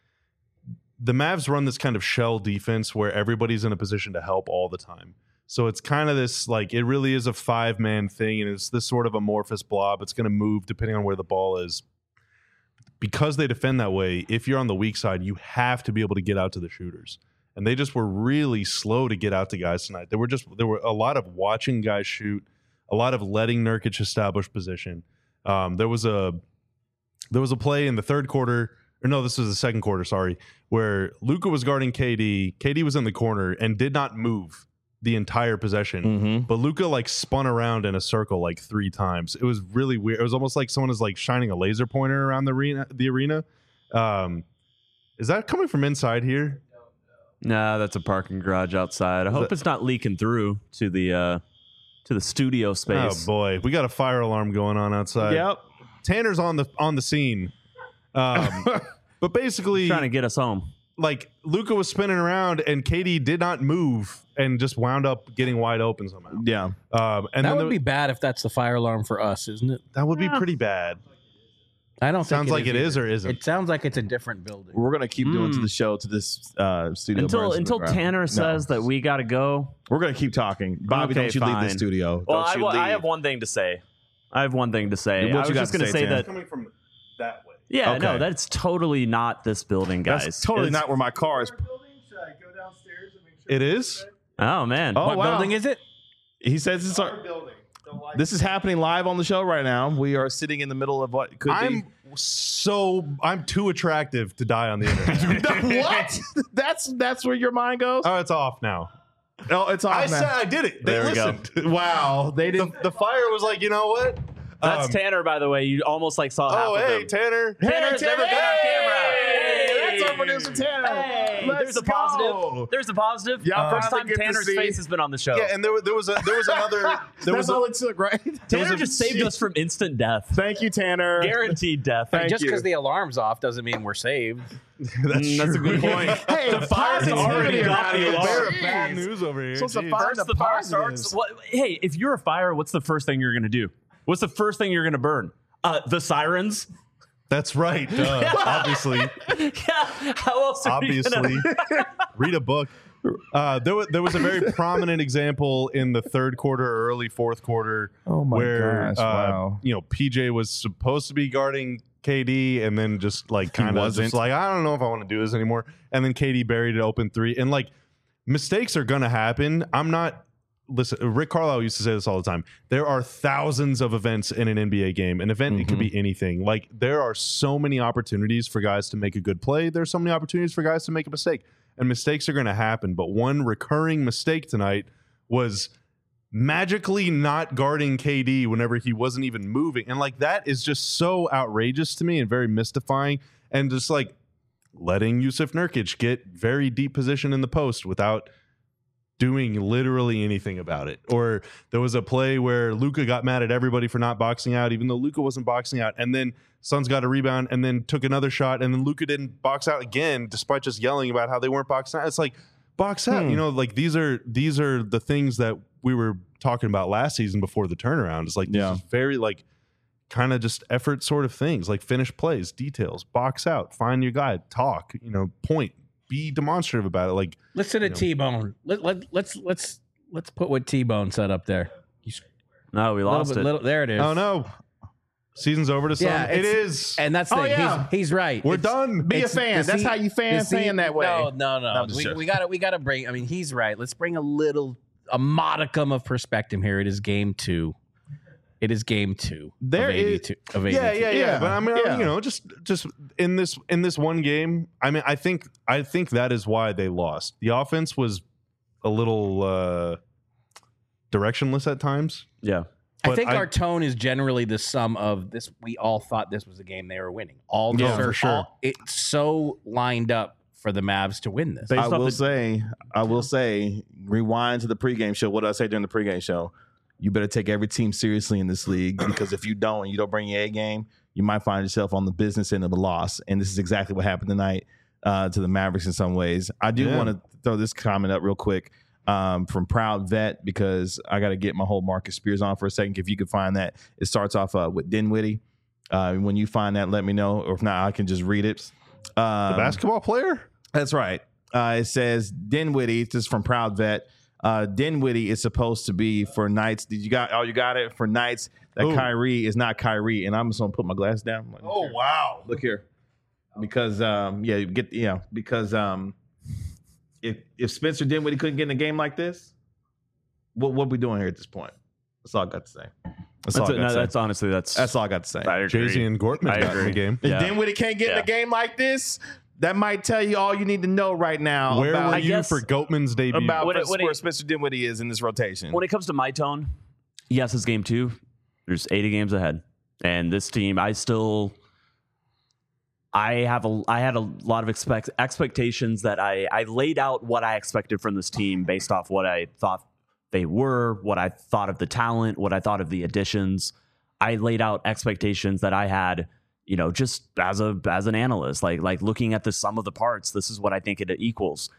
The Mavs run this kind of shell defense where everybody's in a position to help all the time. So it's kind of this, like, it really is a five-man thing, and it's this sort of amorphous blob. It's going to move depending on where the ball is. because they defend that way, if you're on the weak side, you have to be able to get out to the shooters. And they just were really slow to get out to guys tonight. There were just there were a lot of watching guys shoot, a lot of letting Nurkic establish position. Um, there was a there was a play in the third quarter, or no, this was the second quarter, sorry, where Luka was guarding K D. K D was in the corner and did not move the entire possession. Mm-hmm. But Luka like spun around in a circle like three times. It was really weird. It was almost like someone is like shining a laser pointer around the arena. The arena. Um, is that coming from inside here? Nah, that's a parking garage outside. I hope that- it's not leaking through to the uh, to the studio space. Oh boy, we got a fire alarm going on outside. Yep. Tanner's on the on the scene. Um, but basically, Trying to get us home. like Luka was spinning around and K D did not move and just wound up getting wide open somehow. Yeah. Um, and that then would the- be bad if that's the fire alarm for us, isn't it? that would be pretty bad. I don't Sounds think like it is either. or isn't. It sounds like it's a different building. We're gonna keep doing to Mm. the show to this uh, studio Until burns to the until ground. Tanner No. says that we got to go. We're gonna keep talking. Bobby, Okay, don't you leave fine. the studio? Well, don't I, you wa- leave. I have one thing to say. I have one thing to say. What I you was got just to going to say, say Tanner? that. Coming from that way. Yeah, Okay. no, that's totally not this building, guys. That's totally It's- not where my car is. It is. Oh man. Oh, what wow. building is it? He says it's our building. This is happening live on the show right now. We are sitting in the middle of what could I'm so I'm too attractive to die on the internet. be. What? That's that's where your mind goes. Oh, it's off now. Oh, it's off I now. said I did it. They There we go. listened. Wow, they The, didn't. the fire was like, you know what? That's Um, Tanner, by the way. You almost like saw half Oh, of hey, him. Tanner. Tanner's never been on camera. Hey, that's our producer Tanner. Hey, Let's there's a go. positive. There's a positive. Yeah, first finally time get to Tanner's see- face has been on the show. Yeah, and there, wa- there was a there was another there That's was a, all it took, right? Tanner was a- just saved us from instant death. Thank you, Tanner. Guaranteed death. Thank Just you. because the alarm's off doesn't mean we're saved. that's, Mm, that's a true. good point. Hey, The fire's positivity already around got the here. alarm. Bear of Jeez. bad news over here. Supposed to Jeez. find First, the the fire positives. starts. What, hey, if you're a fire, what's the first thing you're going to do? What's the first thing you're going to burn? Uh, the sirens. That's right. Duh, obviously, Yeah. How else? Are you obviously, gonna- read a book. Uh, there was there was a very prominent example in the third quarter or early fourth quarter. Oh my where, gosh, uh, wow. You know, P J was supposed to be guarding K D, and then just like kind of wasn't. just like, I don't know if I want to do this anymore. And then K D buried it open three, and like mistakes are gonna happen. I'm not. Listen, Rick Carlisle used to say this all the time. There are thousands of events in an N B A game. An event, it could be anything. Like, there are so many opportunities for guys to make a good play. There's so many opportunities for guys to make a mistake. And mistakes are going to happen. But one recurring mistake tonight was magically not guarding K D whenever he wasn't even moving. And, like, that is just so outrageous to me and very mystifying. And just, like, letting Yusuf Nurkic get very deep position in the post without doing literally anything about it. Or there was a play where Luka got mad at everybody for not boxing out, even though Luka wasn't boxing out. And then Suns got a rebound and then took another shot. And then Luka didn't box out again, despite just yelling about how they weren't boxing out. It's like, box out. Hmm. You know, like these are these are the things that we were talking about last season before the turnaround. It's like, Yeah. this is very like kind of just effort sort of things, like finish plays, details, box out, find your guy, talk, you know, point, be demonstrative about it. Like, Listen to You know. T-Bone. Let, let, let's let's let's put what T-Bone said up there. He's No, we a little lost bit, it. little, there it is. oh no, season's over to some. Yeah, it it's- is. And that's the Oh, thing. yeah. He's, he's right. We're It's- done. Be a it's- fan. the That's se- how you fan the se- fan that way. No, no, no. I'm just we, joking. we got to we got to bring. I mean, he's right. Let's bring a little a modicum of perspective here. It is game two. It is game two. There of is- eighty-two. Of yeah, eighty-two. yeah, yeah, Yeah, But I mean, yeah. you know, just just in this in this one game, I mean, I think I think that is why they lost. The offense was a little uh directionless at times. Yeah. I But think I- our tone is generally the sum of this. We all thought this was a game they were winning. All Yeah, the- for sure. all- it's so lined up for the Mavs to win this. Based I off will the- say, I will say, rewind to the pregame show. What did I say during the pregame show? You better take every team seriously in this league because if you don't, and you don't bring your A game, you might find yourself on the business end of a loss. And this is exactly what happened tonight uh, to the Mavericks in some ways. I do Yeah. want to throw this comment up real quick um, from Proud Vet because I got to get my whole Marcus Spears on for a second. If you could find that, it starts off uh, with Dinwiddie. Uh, when you find that, let me know. Or if not, I can just read it. Um, The basketball player. That's right. Uh, it says Dinwiddie. This is from Proud Vet. Uh, Dinwiddie is supposed to be for nights. Did you got? Oh, you got it for nights that Ooh. Kyrie is not Kyrie, and I'm just gonna put my glass down. I'm like, Oh here. wow! Look here, because um, yeah, you get you know, because um, if if Spencer Dinwiddie couldn't get in a game like this, what what we doing here at this point? That's all I got to say. That's, That's, all I it, got no, to say. that's honestly that's That's all I got to say. I agree. Jay-Z and Gortman I got in the agree. game. If Yeah. Dinwiddie can't get in Yeah. a game like this, that might tell you all you need to know right now Where about, were I you guess- for Goatman's debut? about When it- when where it- Spencer Dinwiddie is in this rotation. when it comes to my tone, yes, it's game two. There's eighty games ahead, and this team, I still, I have a, I had a lot of expect expectations that I, I laid out what I expected from this team based off what I thought they were, what I thought of the talent, what I thought of the additions. I laid out expectations that I had, you know, just as a as an analyst, like like looking at the sum of the parts. This is what I think it equals,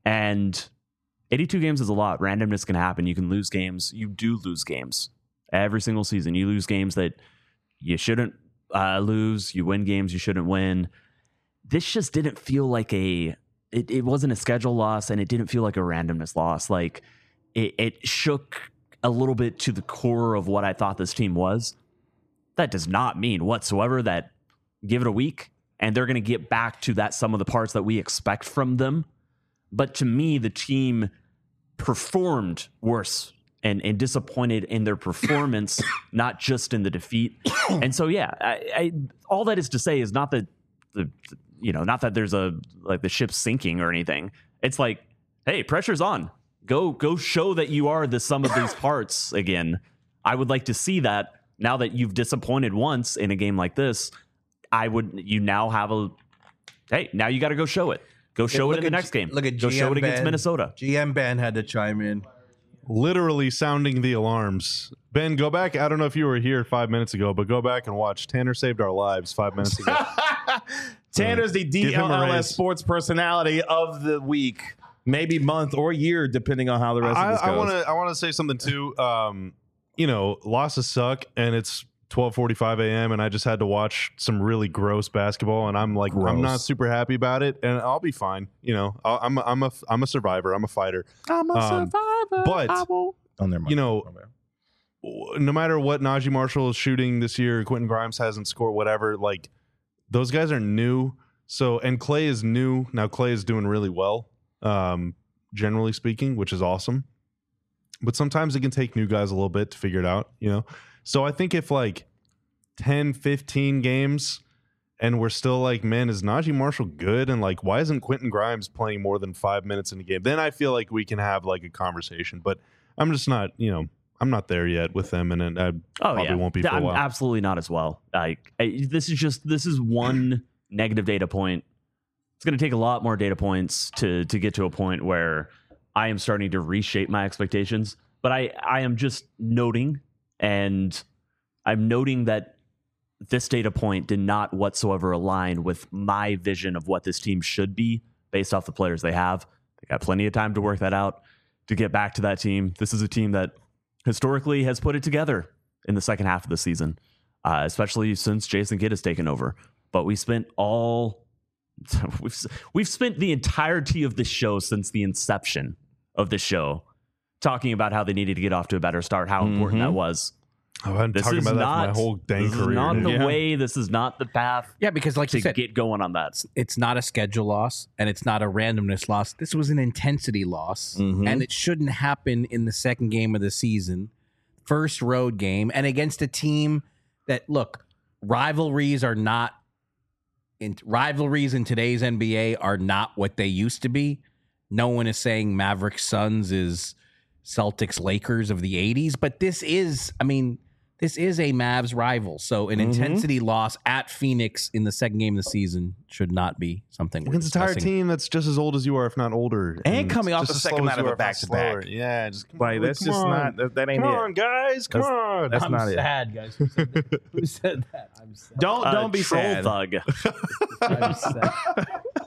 and eighty-two games is a lot. Randomness can happen. You can lose games. You do lose games every single season. You lose games that you shouldn't uh, lose. You win games you shouldn't win. This just didn't feel like a. It, it wasn't a schedule loss, and it didn't feel like a randomness loss. Like it, it shook a little bit to the core of what I thought this team was. That does not mean whatsoever that give it a week and they're going to get back to that sum of the parts that we expect from them. But to me, the team performed worse and, and disappointed in their performance, not just in the defeat. And so, yeah, I, I, all that is to say is not that the, you know, not that there's a like the ship's sinking or anything. It's like, hey, pressure's on. Go, go show that you are the sum of these parts again. I would like to see that. Now that you've disappointed once in a game like this, I would. You now have a. Hey, now you got to go show it. Go show look it in the at next G- game. look at go show G M it against Ben. Minnesota. G M Ben had to chime in. Literally sounding the alarms. Ben, go back. I don't know if you were here five minutes ago, but go back and watch. Tanner saved our lives five minutes ago. Tanner's the Give him a D L L S raise. sports personality of the week, maybe month or year, depending on how the rest I, of this goes. I want to. I want to say something too. Um, you know, losses suck, and it's twelve forty-five a.m. and I just had to watch some really gross basketball, and I'm like, I'm Gross. not super happy about it, and I'll be fine. You know, I'll, I'm a, I'm a I'm a survivor. I'm a fighter. I'm a Um, survivor. but, I will- oh, never mind. you know, My bad. No matter what Najee Marshall is shooting this year, Quentin Grimes hasn't scored. Whatever, like those guys are new. So and Clay is new now. Clay is doing really well, um, generally speaking, which is awesome. But sometimes it can take new guys a little bit to figure it out, you know. So I think if like ten, fifteen games and we're still like, man, is Najee Marshall good? And like, why isn't Quentin Grimes playing more than five minutes in a game? Then I feel like we can have like a conversation. But I'm just not, you know, I'm not there yet with them, and, and I Oh probably yeah, won't be for a I'm while. absolutely not as well. Like I, this is just this is one negative data point. It's going to take a lot more data points to to get to a point where I am starting to reshape my expectations. But I I am just noting, and I'm noting that this data point did not whatsoever align with my vision of what this team should be based off the players they have. They got plenty of time to work that out, to get back to that team. This is a team that historically has put it together in the second half of the season, uh, especially since Jason Kidd has taken over. But we spent all we've we've spent the entirety of this show since the inception of the show talking about how they needed to get off to a better start, how important that was. Oh, I've been This talking is about that not for my whole dang this is career. not dude. the Yeah. way. This is not the path Yeah, because like to you said, get going on that. it's not a schedule loss and it's not a randomness loss. This was an intensity loss, Mhm. and it shouldn't happen in the second game of the season, first road game, and against a team that, look, rivalries are not in rivalries in today's N B A are not what they used to be. No one is saying Mavericks Suns is Celtics Lakers of the eighties, but this is, I mean, this is a Mavs rival. So an Mhm. intensity loss at Phoenix in the second game of the season should not be something we're Against an entire discussing. team that's just as old as you are, if not older, And coming off just the as second slow night as of you a are, if not back-to-back. slower. Yeah, just come Like on, that's come just on. not that, that ain't Come it. on, guys, come That's- on. That's I'm not it. sad, guys. Who said that? Who said that? I'm sad. Don't Uh, don't be troll sad. thug. I'm sad.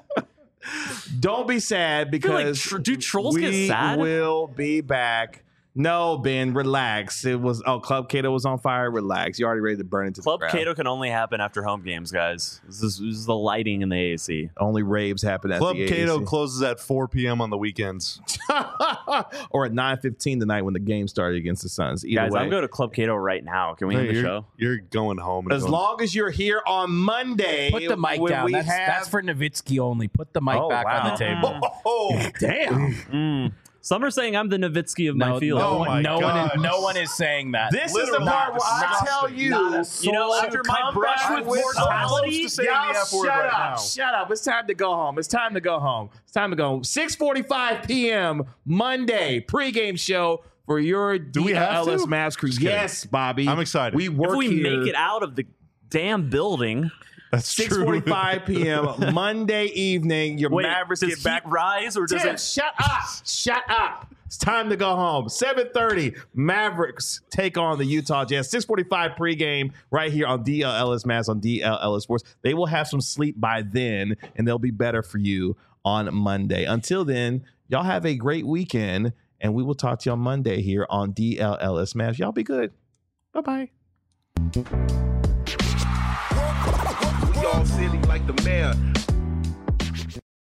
Don't be sad feel like because tr- do trolls we get sad? will be back No, Ben, relax. It was oh, Club Cato was on fire. Relax. You're already ready to burn into Club the ground. Cato can only happen after home games, guys. This is, this is the lighting in the A A C. Only raves happen at Club the Cato A A C. closes at four p.m. on the weekends. Or at nine fifteen tonight when the game started against the Suns. Either Guys, way. I'm going to Club Cato right now. Can we Hey, end the you're, show? you're going home. and As going- long as you're here on Monday, Put the mic when down. we That's, have- that's for Nowitzki only. Put the mic Oh, back on wow. the table. Oh, damn. Mm. Some are saying I'm the Nowitzki of my No, field. no, Oh one, my no one, is, gosh. no one is saying that. This is the Literally part where I not- tell not you, a You know, after my come brush back with mortality, Supposed to say y'all the F word shut right up, now. shut up. It's time to go home. It's time to go home. It's time to go home. six forty-five p.m. Monday pregame show for your Do we have D L L S to? Mavs crew. Just kidding. Yes, Bobby. I'm excited. We work if we here. make it out of the damn building, That's six true. forty-five p.m. Monday evening. Your wait, Mavericks does get heat back. rise or does Tim, it? shut up. Shut up. It's time to go home. seven thirty, Mavericks take on the Utah Jazz. six forty-five pregame right here on D L L S Mavs on D L L S Sports. They will have some sleep by then, and they'll be better for you on Monday. Until then, y'all have a great weekend, and we will talk to you on Monday here on D L L S Mavs. Y'all be good. Bye-bye. We all silly like the mayor.